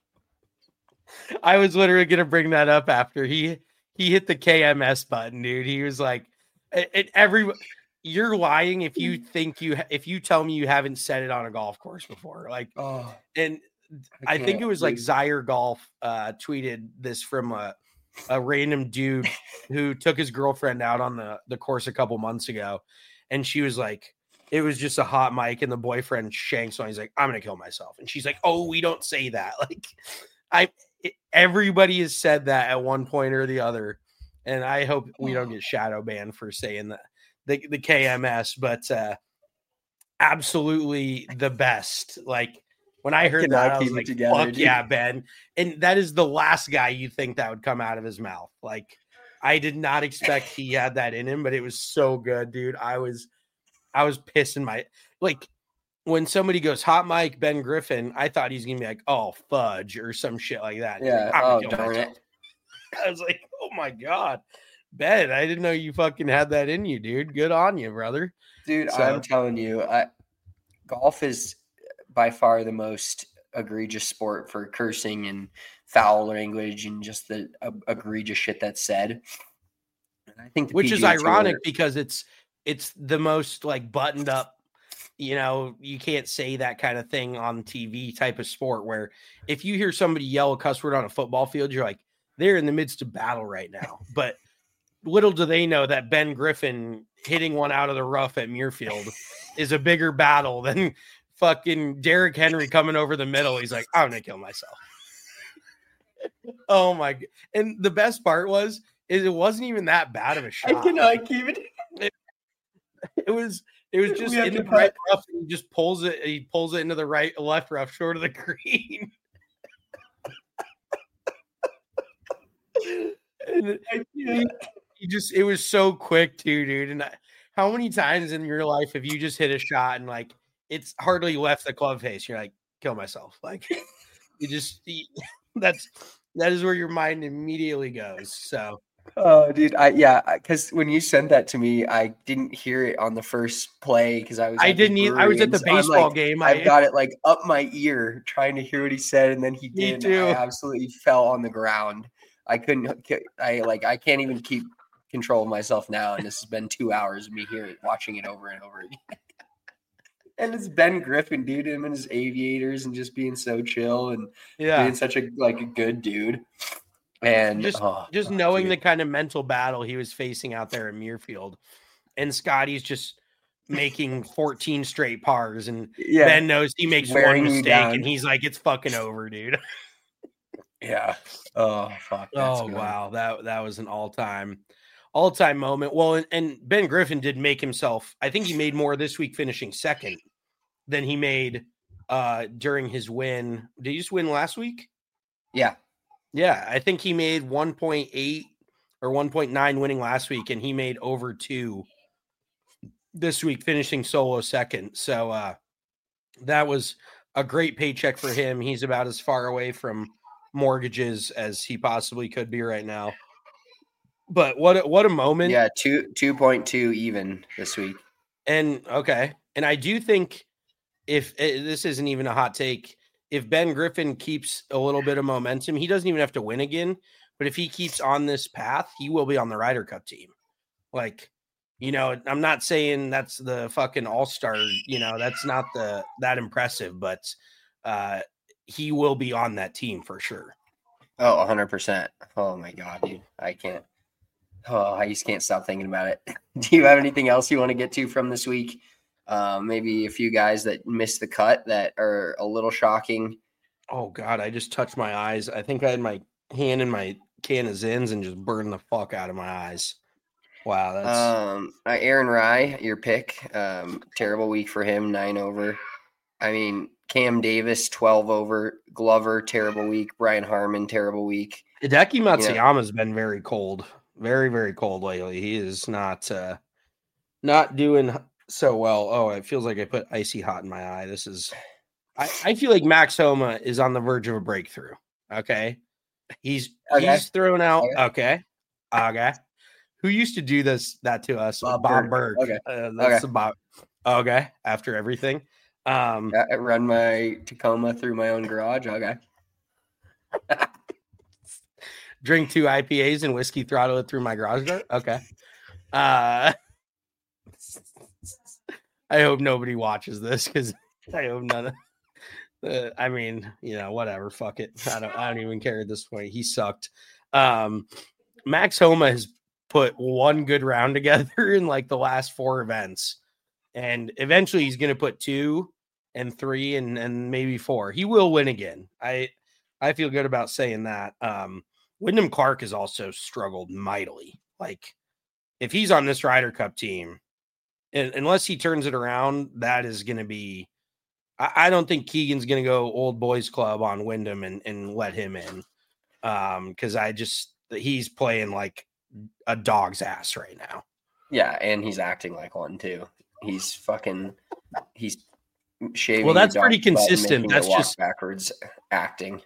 I was literally going to bring that up after he he hit the K M S button, dude. He was like, and every you're lying if you think you if you tell me you haven't said it on a golf course before. Like, oh, and I, I think it was like Zaire Golf uh, tweeted this from a, a random dude who took his girlfriend out on the, the course a couple months ago. And she was like, it was just a hot mic and the boyfriend shanks on. He's like, I'm going to kill myself. And she's like, oh, we don't say that. Like I, it, everybody has said that at one point or the other. And I hope we don't get shadow banned for saying that. The, the K M S, but uh, absolutely the best. Like when I heard I that, I was like, together, fuck dude. Yeah, Ben. And that is the last guy you think that would come out of his mouth. Like I did not expect he had that in him, but it was so good, dude. I was, I was pissing my, like when somebody goes hot mic Ben Griffin, I thought he's going to be like, oh, fudge or some shit like that. Yeah. Like, oh, darn it. I was like, oh my God. Ben, I didn't know you fucking had that in you, dude. Good on you, brother. Dude, so, I'm telling you, I, golf is by far the most egregious sport for cursing and foul language and just the uh, egregious shit that's said. And I think, which P G A is ironic Tour, because it's it's the most like buttoned up. You know, you can't say that kind of thing on T V type of sport. Where if you hear somebody yell a cuss word on a football field, you're like, they're in the midst of battle right now, but. Little do they know that Ben Griffin hitting one out of the rough at Muirfield is a bigger battle than fucking Derrick Henry coming over the middle. He's like, I'm going to kill myself. Oh my God. And the best part was, is it wasn't even that bad of a shot. I cannot keep it. It, it was, it was just in the right rough. He just pulls it. He pulls it into the right, left rough, short of the green. and he, he just, it was so quick too, dude. And I, how many times in your life have you just hit a shot and like, it's hardly left the club face? You're like, kill myself. Like you just, you, that's, that is where your mind immediately goes. So. Oh, dude. I, yeah. Cause when you sent that to me, I didn't hear it on the first play. Cause I was, I didn't either. I was at the baseball like, game. I got it like up my ear trying to hear what he said. And then he did. Me too. I absolutely fell on the ground. I couldn't, I like, I can't even keep control of myself now, and this has been two hours of me here watching it over and over again. And it's Ben Griffin, dude, him and his aviators and just being so chill and yeah, being such a like a good dude. And just oh, just oh, knowing dude. the kind of mental battle he was facing out there in Muirfield, and Scotty's just making fourteen straight pars, and yeah. Ben knows he makes one mistake, and he's like, "It's fucking over, dude." Yeah. Oh fuck. Oh good. Wow, that that was an all time. All-time moment. Well, and, and Ben Griffin did make himself, I think he made more this week finishing second than he made uh, during his win. Did he just win last week? Yeah. Yeah, I think he made one point eight or one point nine winning last week, and he made over two this week, finishing solo second. So uh, that was a great paycheck for him. He's about as far away from mortgages as he possibly could be right now. But what a, what a moment. Yeah, two two point two even this week. And okay. And I do think if this isn't even a hot take, if Ben Griffin keeps a little bit of momentum, he doesn't even have to win again. But if he keeps on this path, he will be on the Ryder Cup team. Like, you know, I'm not saying that's the fucking all-star, you know, that's not the that impressive, but uh, he will be on that team for sure. Oh, one hundred percent. Oh my God, dude. I can't. Oh, I just can't stop thinking about it. Do you have anything else you want to get to from this week? Um, maybe a few guys that missed the cut that are a little shocking. Oh God, I just touched my eyes. I think I had my hand in my can of Zins and just burned the fuck out of my eyes. Wow, that's Um, uh, Aaron Rye, your pick. Um, terrible week for him, nine over. I mean, Cam Davis, twelve over. Glover, terrible week. Brian Harmon, terrible week. Hideki Matsuyama's you know, been very cold, very very cold lately. He is not uh, not doing so well. Oh, it feels like I put icy hot in my eye. This is. I, I feel like Max Homa is on the verge of a breakthrough. Okay, he's okay. he's thrown out. Okay. Okay, okay. Who used to do this that to us? Bob, Bob Burke. Burke. Okay. Uh, that's okay. Bob. Okay. After everything. Um, I run my Tacoma through my own garage. Okay. Drink two I P As and whiskey throttle it through my garage door. Okay. Uh, I hope nobody watches this because I hope none of uh, I mean, you know, whatever. Fuck it. I don't I don't even care at this point. He sucked. Um, Max Homa has put one good round together in like the last four events. And eventually he's going to put two and three and, and maybe four. He will win again. I I feel good about saying that. Um, Wyndham Clark has also struggled mightily. Like, if he's on this Ryder Cup team, and, unless he turns it around, that is going to be I, – I don't think Keegan's going to go old boys club on Wyndham and, and let him in because um, I just – he's playing like a dog's ass right now. Yeah, and he's acting like one too. He's fucking – he's shaving. Well, that's pretty consistent. That's just backwards acting.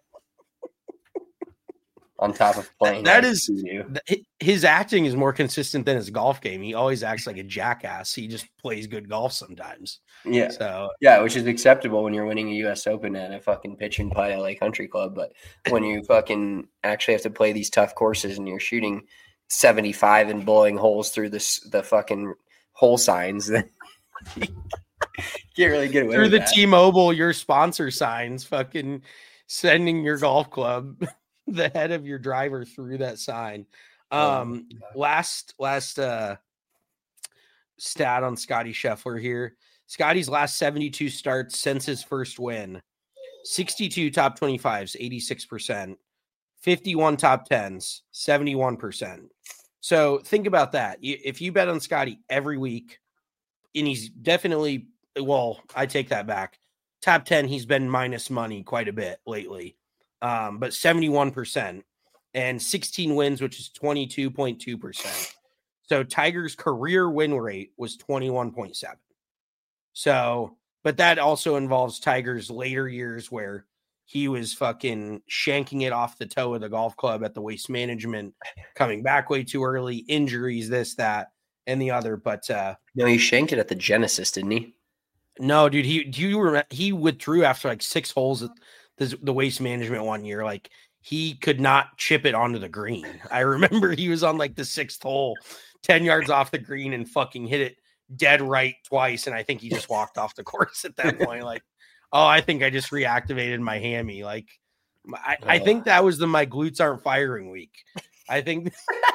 On top of playing. That is his acting is more consistent than his golf game. He always acts like a jackass. He just plays good golf sometimes. Yeah. So yeah, which is acceptable when you're winning a U S Open at a fucking pitch and putt L A Country Club. But when you fucking actually have to play these tough courses and you're shooting seventy-five and blowing holes through this the fucking hole signs, then you can't really get away through with the that. T-Mobile, your sponsor signs, fucking sending your golf club the head of your driver through that sign. Um, oh, last last uh, stat on Scotty Scheffler here. Scotty's last seventy-two starts since his first win. sixty-two top twenty-fives, eighty-six percent. fifty-one top tens, seventy-one percent. So think about that. If you bet on Scotty every week, and he's definitely, well, I take that back. Top ten, he's been minus money quite a bit lately. Um, but seventy-one percent and sixteen wins, which is twenty-two point two percent. So Tiger's career win rate was twenty-one point seven. So, but that also involves Tiger's later years where he was fucking shanking it off the toe of the golf club at the Waste Management, coming back way too early, injuries, this, that, and the other. But uh, no, he shanked it at the Genesis, didn't he? No, dude. He do you remember he withdrew after like six holes at the, the Waste Management one year. Like he could not chip it onto the green. I remember he was on like the sixth hole, ten yards off the green, and fucking hit it dead right twice. And I think he just walked off the course at that point. Like, oh, I think I just reactivated my hammy. Like, I, oh. I think that was the my glutes aren't firing week. I think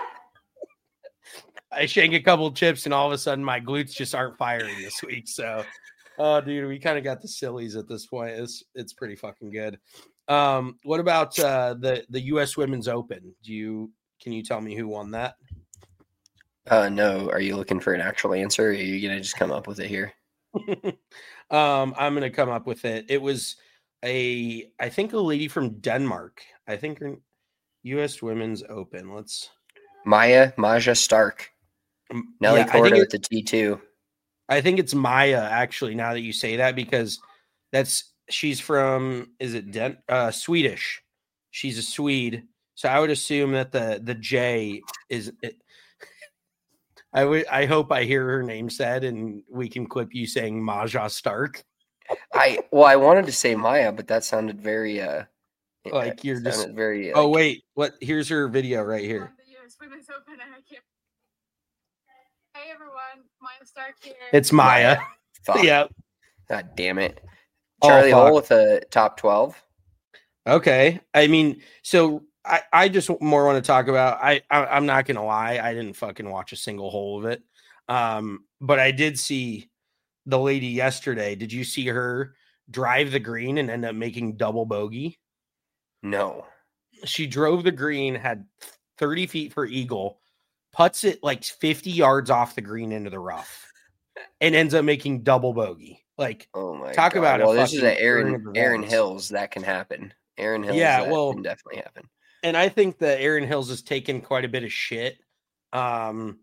I shank a couple chips, and all of a sudden my glutes just aren't firing this week. So. Oh, dude, we kind of got the sillies at this point. It's it's pretty fucking good. Um, what about uh, the the U S Women's Open? Do you can you tell me who won that? Uh, no. Are you looking for an actual answer? Or are you gonna just come up with it here? um, I'm gonna come up with it. It was a I think a lady from Denmark. I think her U S Women's Open. Let's Maya Maja Stark. Nelly yeah, Korda at the T two. I think it's Maya, actually, now that you say that, because that's she's from, is it Den, uh, Swedish? She's a Swede. So I would assume that the the J is it, I would I hope I hear her name said and we can clip you saying Maja Stark. I well, I wanted to say Maya, but that sounded very uh like you're just very like, oh wait, what here's her video right here. Hey everyone, Maya Stark here. It's Maya. Fuck. Yeah. God damn it. Charlie oh, Hole with a top twelve. Okay. I mean, so I, I just more want to talk about I, I I'm not gonna lie, I didn't fucking watch a single hole of it. Um, but I did see the lady yesterday. Did you see her drive the green and end up making double bogey? No. She drove the green, had thirty feet for eagle, putts it like fifty yards off the green into the rough, and ends up making double bogey. Like, oh my talk God. about well, a this is an fucking Aaron Aaron events. Hills that can happen. Aaron Hills, Yeah, that well, can definitely happen. And I think that Aaron Hills has taken quite a bit of shit. Um,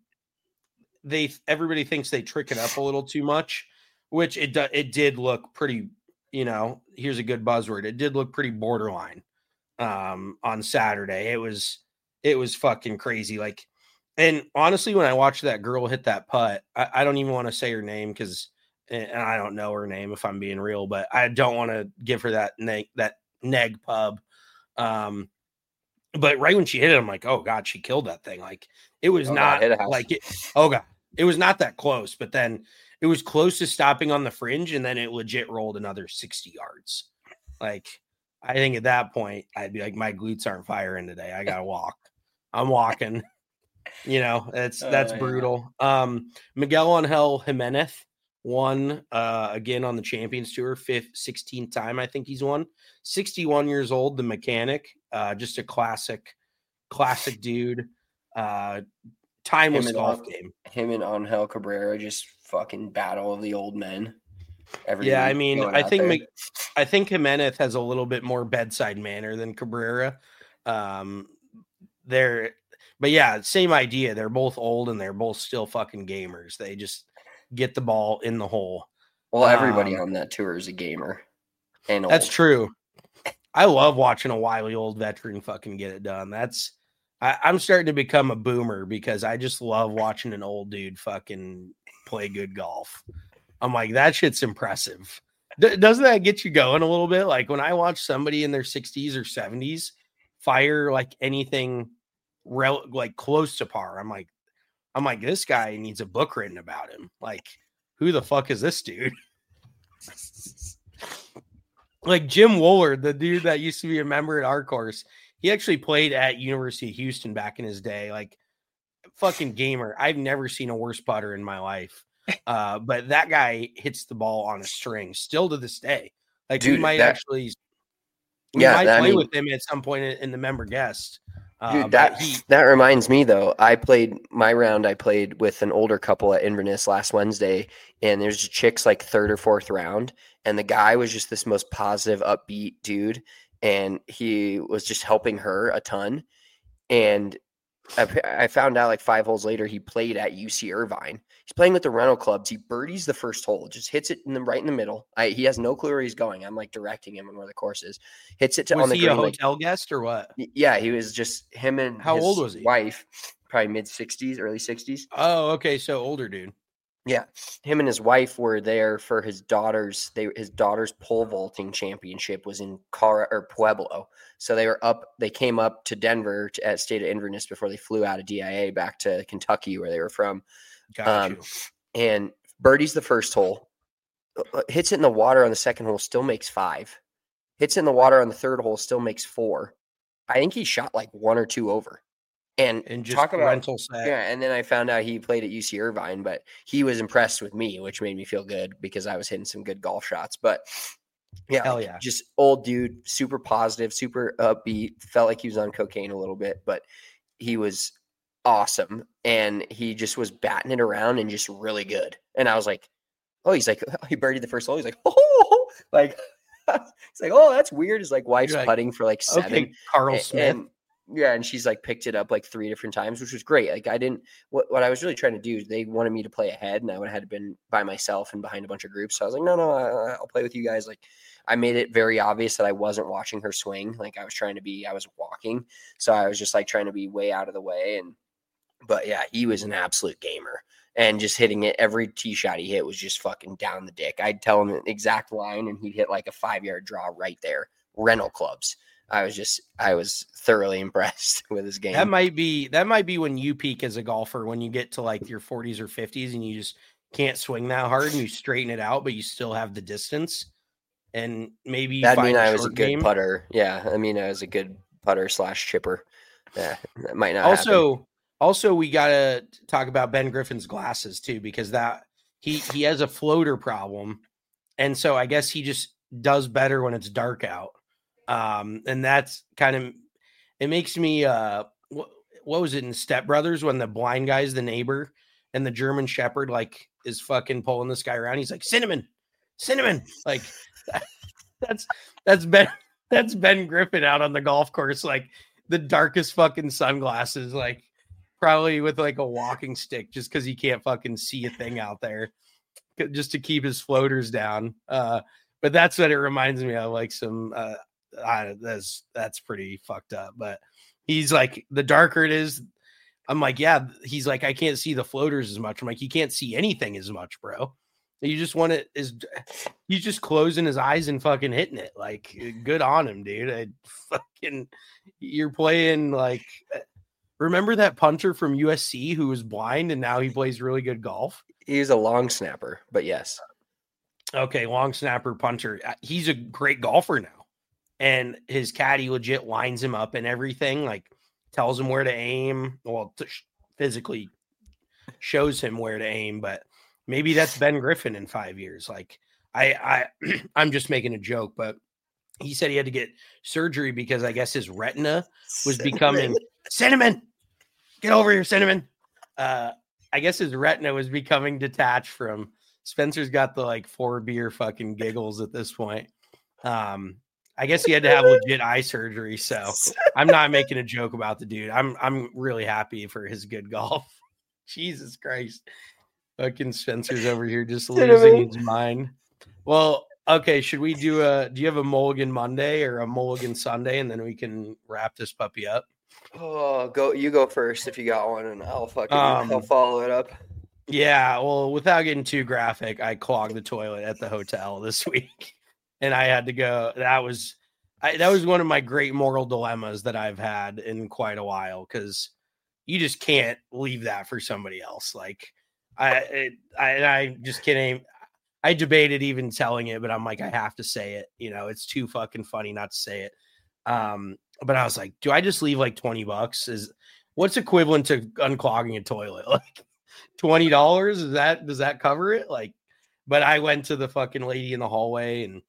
they everybody thinks they trick it up a little too much, which it do, it did look pretty. You know, here's a good buzzword. It did look pretty borderline um, on Saturday. It was it was fucking crazy. Like, and honestly, when I watched that girl hit that putt, I, I don't even want to say her name because, and I don't know her name if I'm being real, but I don't want to give her that neg that neg pub. Um, but right when she hit it, I'm like, oh God, she killed that thing. Like, it was oh, not God, like it. Oh God, it was not that close, but then it was close to stopping on the fringe, and then it legit rolled another sixty yards. Like, I think at that point, I'd be like, my glutes aren't firing today. I gotta walk. I'm walking. You know, that's that's oh, brutal. Yeah. Um, Miguel Angel Jimenez won uh, again on the Champions Tour, fifth, sixteenth time I think he's won. sixty-one years old, the mechanic, uh, just a classic, classic dude. Uh, timeless him golf and, game. Him and Angel Cabrera just fucking battle of the old men. Every yeah, I mean, I think there. I think Jimenez has a little bit more bedside manner than Cabrera. Um, they're, but yeah, same idea. They're both old and they're both still fucking gamers. They just get the ball in the hole. Well, everybody um, on that tour is a gamer. And old. That's true. I love watching a wily old veteran fucking get it done. That's I, I'm starting to become a boomer because I just love watching an old dude fucking play good golf. I'm like, that shit's impressive. D- doesn't that get you going a little bit? Like when I watch somebody in their sixties or seventies fire like anything rel- like close to par, I'm like, I'm like, this guy needs a book written about him. Like, who the fuck is this dude? Like Jim Woolard, the dude that used to be a member at our course, he actually played at University of Houston back in his day. Like, fucking gamer. I've never seen a worse putter in my life. Uh, but that guy hits the ball on a string still to this day. Like, dude, we might that, actually, we yeah, might that, play I mean, with him at some point in, in the member guest. Uh, dude, that he, that reminds me though. I played my round. I played with an older couple at Inverness last Wednesday, and there's chicks like third or fourth round, and the guy was just this most positive, upbeat dude, and he was just helping her a ton. And I, I found out like five holes later, he played at U C Irvine. He's playing with the rental clubs. He birdies the first hole, just hits it in the right in the middle. I, he has no clue where he's going. I'm like directing him on where the course is. Hits it to was on the he green, a hotel like, guest or what? Yeah, he was just him and how his old was he? Wife, probably mid sixties, early sixties. Oh, okay, so older dude. Yeah, him and his wife were there for his daughter's. They his daughter's pole vaulting championship was in Car or Pueblo, so they were up. They came up to Denver to, at State of Inverness before they flew out of D I A back to Kentucky, where they were from. Got um, you. And birdies the first hole, hits it in the water on the second hole, still makes five. Hits it in the water on the third hole, still makes four. I think he shot like one or two over. And, and just talk about rental set. Yeah, and then I found out he played at U C Irvine, but he was impressed with me, which made me feel good because I was hitting some good golf shots. But yeah, Hell like, yeah. just old dude, super positive, super upbeat. Felt like he was on cocaine a little bit, but he was awesome. And he just was batting it around and just really good. And I was like, oh, he's like, he birdied the first hole. He's like, oh, like, it's like, oh, that's weird. His like wife's like, putting for like seven. Okay, Carl and, Smith. And, yeah, and she's like picked it up like three different times, which was great. Like I didn't, what, what I was really trying to do is they wanted me to play ahead, and I would have had been by myself and behind a bunch of groups. So I was like, no, no, I, I'll play with you guys. Like I made it very obvious that I wasn't watching her swing. Like I was trying to be, I was walking. So I was just like trying to be way out of the way. And, but yeah, he was an absolute gamer and just hitting it. Every tee shot he hit was just fucking down the dick. I'd tell him an exact line and he'd hit like a five yard draw right there. Rental clubs. I was just, I was thoroughly impressed with his game. That might be, that might be when you peak as a golfer, when you get to like your forties or fifties and you just can't swing that hard and you straighten it out, but you still have the distance. And maybe you that find mean a I was a short good game. putter. Yeah. I mean, I was a good putter slash chipper. Yeah. That might not Also, happen. also we got to talk about Ben Griffin's glasses too, because that he, he has a floater problem. And so I guess he just does better when it's dark out. Um, and that's kind of, it makes me, uh, what was it in Step Brothers when the blind guy's the neighbor and the German Shepherd like is fucking pulling this guy around. He's like, cinnamon, cinnamon. Like that's that's Ben that's Ben Griffin out on the golf course, like the darkest fucking sunglasses, like probably with like a walking stick just because he can't fucking see a thing out there, just to keep his floaters down. Uh, but that's what it reminds me of, like some uh, I, that's that's pretty fucked up. But he's like, the darker it is, I'm like, yeah. He's like, I can't see the floaters as much. I'm like, you can't see anything as much, bro. You just want it is he's just closing his eyes and fucking hitting it. Like, good on him, dude. I fucking you're playing like. Remember that punter from U S C who was blind and now he plays really good golf? He's a long snapper, but yes. Okay, long snapper punter. He's a great golfer now. And his caddy legit lines him up and everything, like tells him where to aim. Well, t- physically shows him where to aim, but maybe that's Ben Griffin in five years. Like I, I, I'm just making a joke, but he said he had to get surgery because I guess his retina was cinnamon. becoming cinnamon. Get over here, cinnamon. Uh, I guess his retina was becoming detached from. Spencer's got the like four beer fucking giggles at this point. Um, I guess he had to have legit eye surgery. So I'm not making a joke about the dude. I'm I'm really happy for his good golf. Jesus Christ. Fucking Spencer's over here just losing his mind. Well, okay. Should we do a, do you have a Mulligan Monday or a Mulligan Sunday? And then we can wrap this puppy up. Oh, go, you go first if you got one and I'll fucking, Um, I'll follow it up. Yeah. Well, without getting too graphic, I clogged the toilet at the hotel this week and I had to go. That was, I, that was one of my great moral dilemmas that I've had in quite a while. Cause you just can't leave that for somebody else. Like I, it, I, I just can't. I debated even telling it, but I'm like, I have to say it. You know, it's too fucking funny not to say it. Um, but I was like, do I just leave like twenty bucks? Is what's equivalent to unclogging a toilet? Like twenty dollars? Is that, does that cover it? Like, but I went to the fucking lady in the hallway and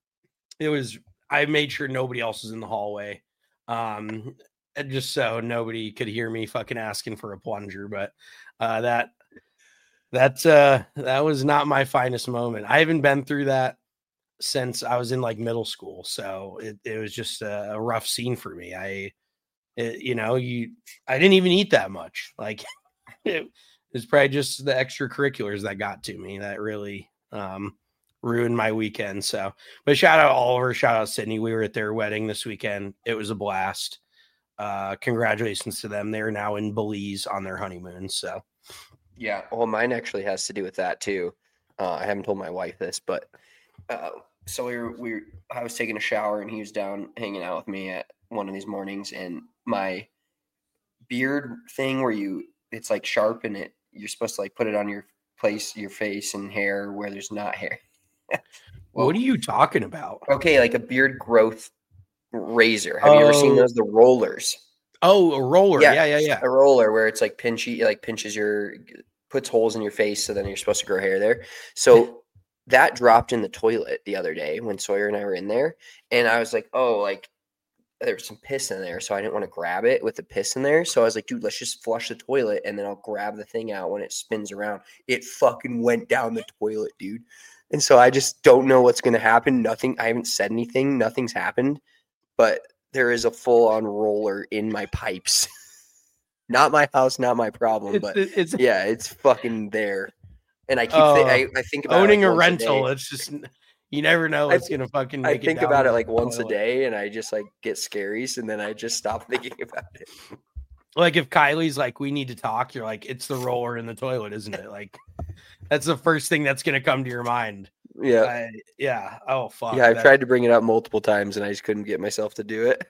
it was, I made sure nobody else was in the hallway. Um, just so nobody could hear me fucking asking for a plunger. But, uh, that, That uh, that was not my finest moment. I haven't been through that since I was in like middle school, so it, it was just a, a rough scene for me. I, it, you know, you I didn't even eat that much. Like it was probably just the extracurriculars that got to me that really um, ruined my weekend. So, but shout out Oliver, shout out Sydney. We were at their wedding this weekend. It was a blast. Uh, congratulations to them. They're now in Belize on their honeymoon. So. Yeah, well, mine actually has to do with that too. Uh, I haven't told my wife this, but uh, so we were, we were, I was taking a shower and he was down hanging out with me at one of these mornings, and my beard thing where you, it's like sharp and it, you're supposed to like put it on your place, your face and hair where there's not hair. Well, what are you talking about? Okay, like a beard growth razor. Have oh. you ever seen those? The rollers. Oh, a roller. Yeah, yeah, yeah, yeah. A roller where it's like pinchy, like pinches your, puts holes in your face, so then you're supposed to grow hair there. So that dropped in the toilet the other day when Sawyer and I were in there, and I was like, oh, like there was some piss in there, so I didn't want to grab it with the piss in there. So I was like, dude, let's just flush the toilet, and then I'll grab the thing out when it spins around. It fucking went down the toilet, dude. And so I just don't know what's gonna happen. Nothing. I haven't said anything. Nothing's happened, but there is a full-on roller in my pipes. Not my house, not my problem, it's, but it's yeah, it's fucking there. And I keep, uh, th- I, I think about owning it like a rental. A it's just you never know what's I, gonna fucking. Make I think it down about it like once toilet. a day, and I just like get scaries, and then I just stop thinking about it. Like if Kylie's like, we need to talk, you're like, it's the roller in the toilet, isn't it? Like that's the first thing that's gonna come to your mind. Yeah, I, yeah. Oh fuck. Yeah, I've that, tried to bring it up multiple times, and I just couldn't get myself to do it.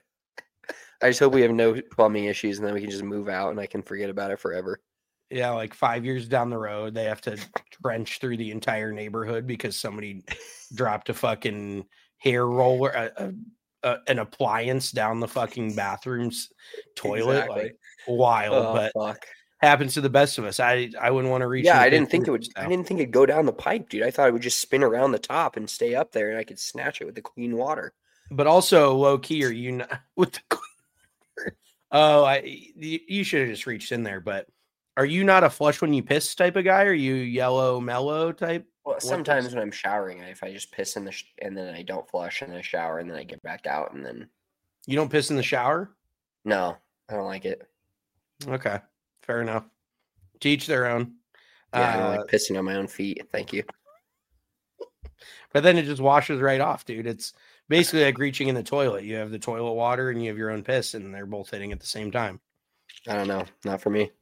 I just hope we have no plumbing issues, and then we can just move out, and I can forget about it forever. Yeah, like five years down the road, they have to trench through the entire neighborhood because somebody dropped a fucking hair roller, a, a, a, an appliance down the fucking bathroom's toilet. Exactly. Like wild, oh, but fuck. happens to the best of us. I I wouldn't want to reach. Yeah, I didn't think it would. Now. I didn't think it'd go down the pipe, dude. I thought it would just spin around the top and stay up there, and I could snatch it with the clean water. But also, low key, are you not with the? Oh, I you, you should have just reached in there. But are you not a flush when you piss type of guy? Are you yellow mellow type? Well, What sometimes is- when I'm showering, if I just piss in the sh- and then I don't flush and then I shower and then I get back out and then you don't piss in the shower? no, I don't like it. Okay, fair enough. To each their own. Yeah, I don't Uh, like pissing on my own feet. Thank you. But then it just washes right off, dude. It's basically like reaching in the toilet. You have the toilet water and you have your own piss, and they're both hitting at the same time. I don't know. Not for me.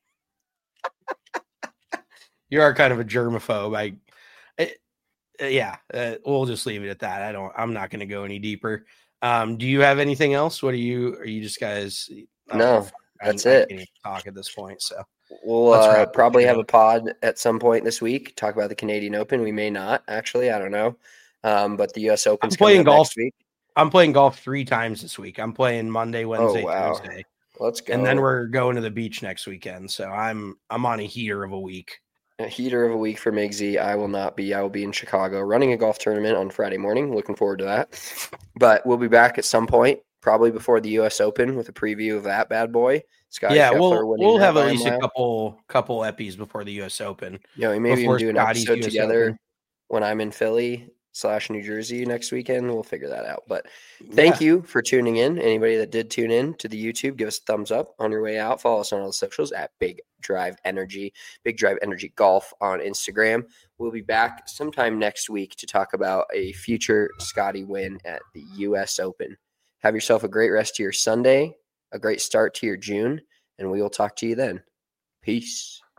You are kind of a germaphobe. I, it, uh, yeah, uh, we'll just leave it at that. I don't. I'm not going to go any deeper. Um, do you have anything else? What are you? Are you just guys? oh, No, I- that's I it. can't even talk at this point. So We'll Let's uh, wrap this probably shit have up. a pod at some point this week. Talk about the Canadian Open. We may not actually. I don't know. Um, but the U S Open's I'm playing coming up golf. next week. I'm playing golf three times this week. I'm playing Monday, Wednesday, Oh wow, Thursday, let's go. and then we're going to the beach next weekend. So I'm I'm on a heater of a week. A heater of a week for Migsy. I will not be. I will be in Chicago running a golf tournament on Friday morning. Looking forward to that. But we'll be back at some point, probably before the U S Open, with a preview of that bad boy. Scotty yeah, Scheffler we'll winning we'll that have by at a least a mile. couple couple eppies before the U S Open. You know, maybe before even do an Scotty's episode U S together Open. when I'm in Philly slash New Jersey next weekend. We'll figure that out. But thank Yeah. you for tuning in. Anybody that did tune in to the YouTube, give us a thumbs up on your way out. Follow us on all the socials at Big Drive Energy, Big Drive Energy Golf on Instagram. We'll be back sometime next week to talk about a future Scotty win at the U S Open. Have yourself a great rest of your Sunday, a great start to your June, and we will talk to you then. Peace.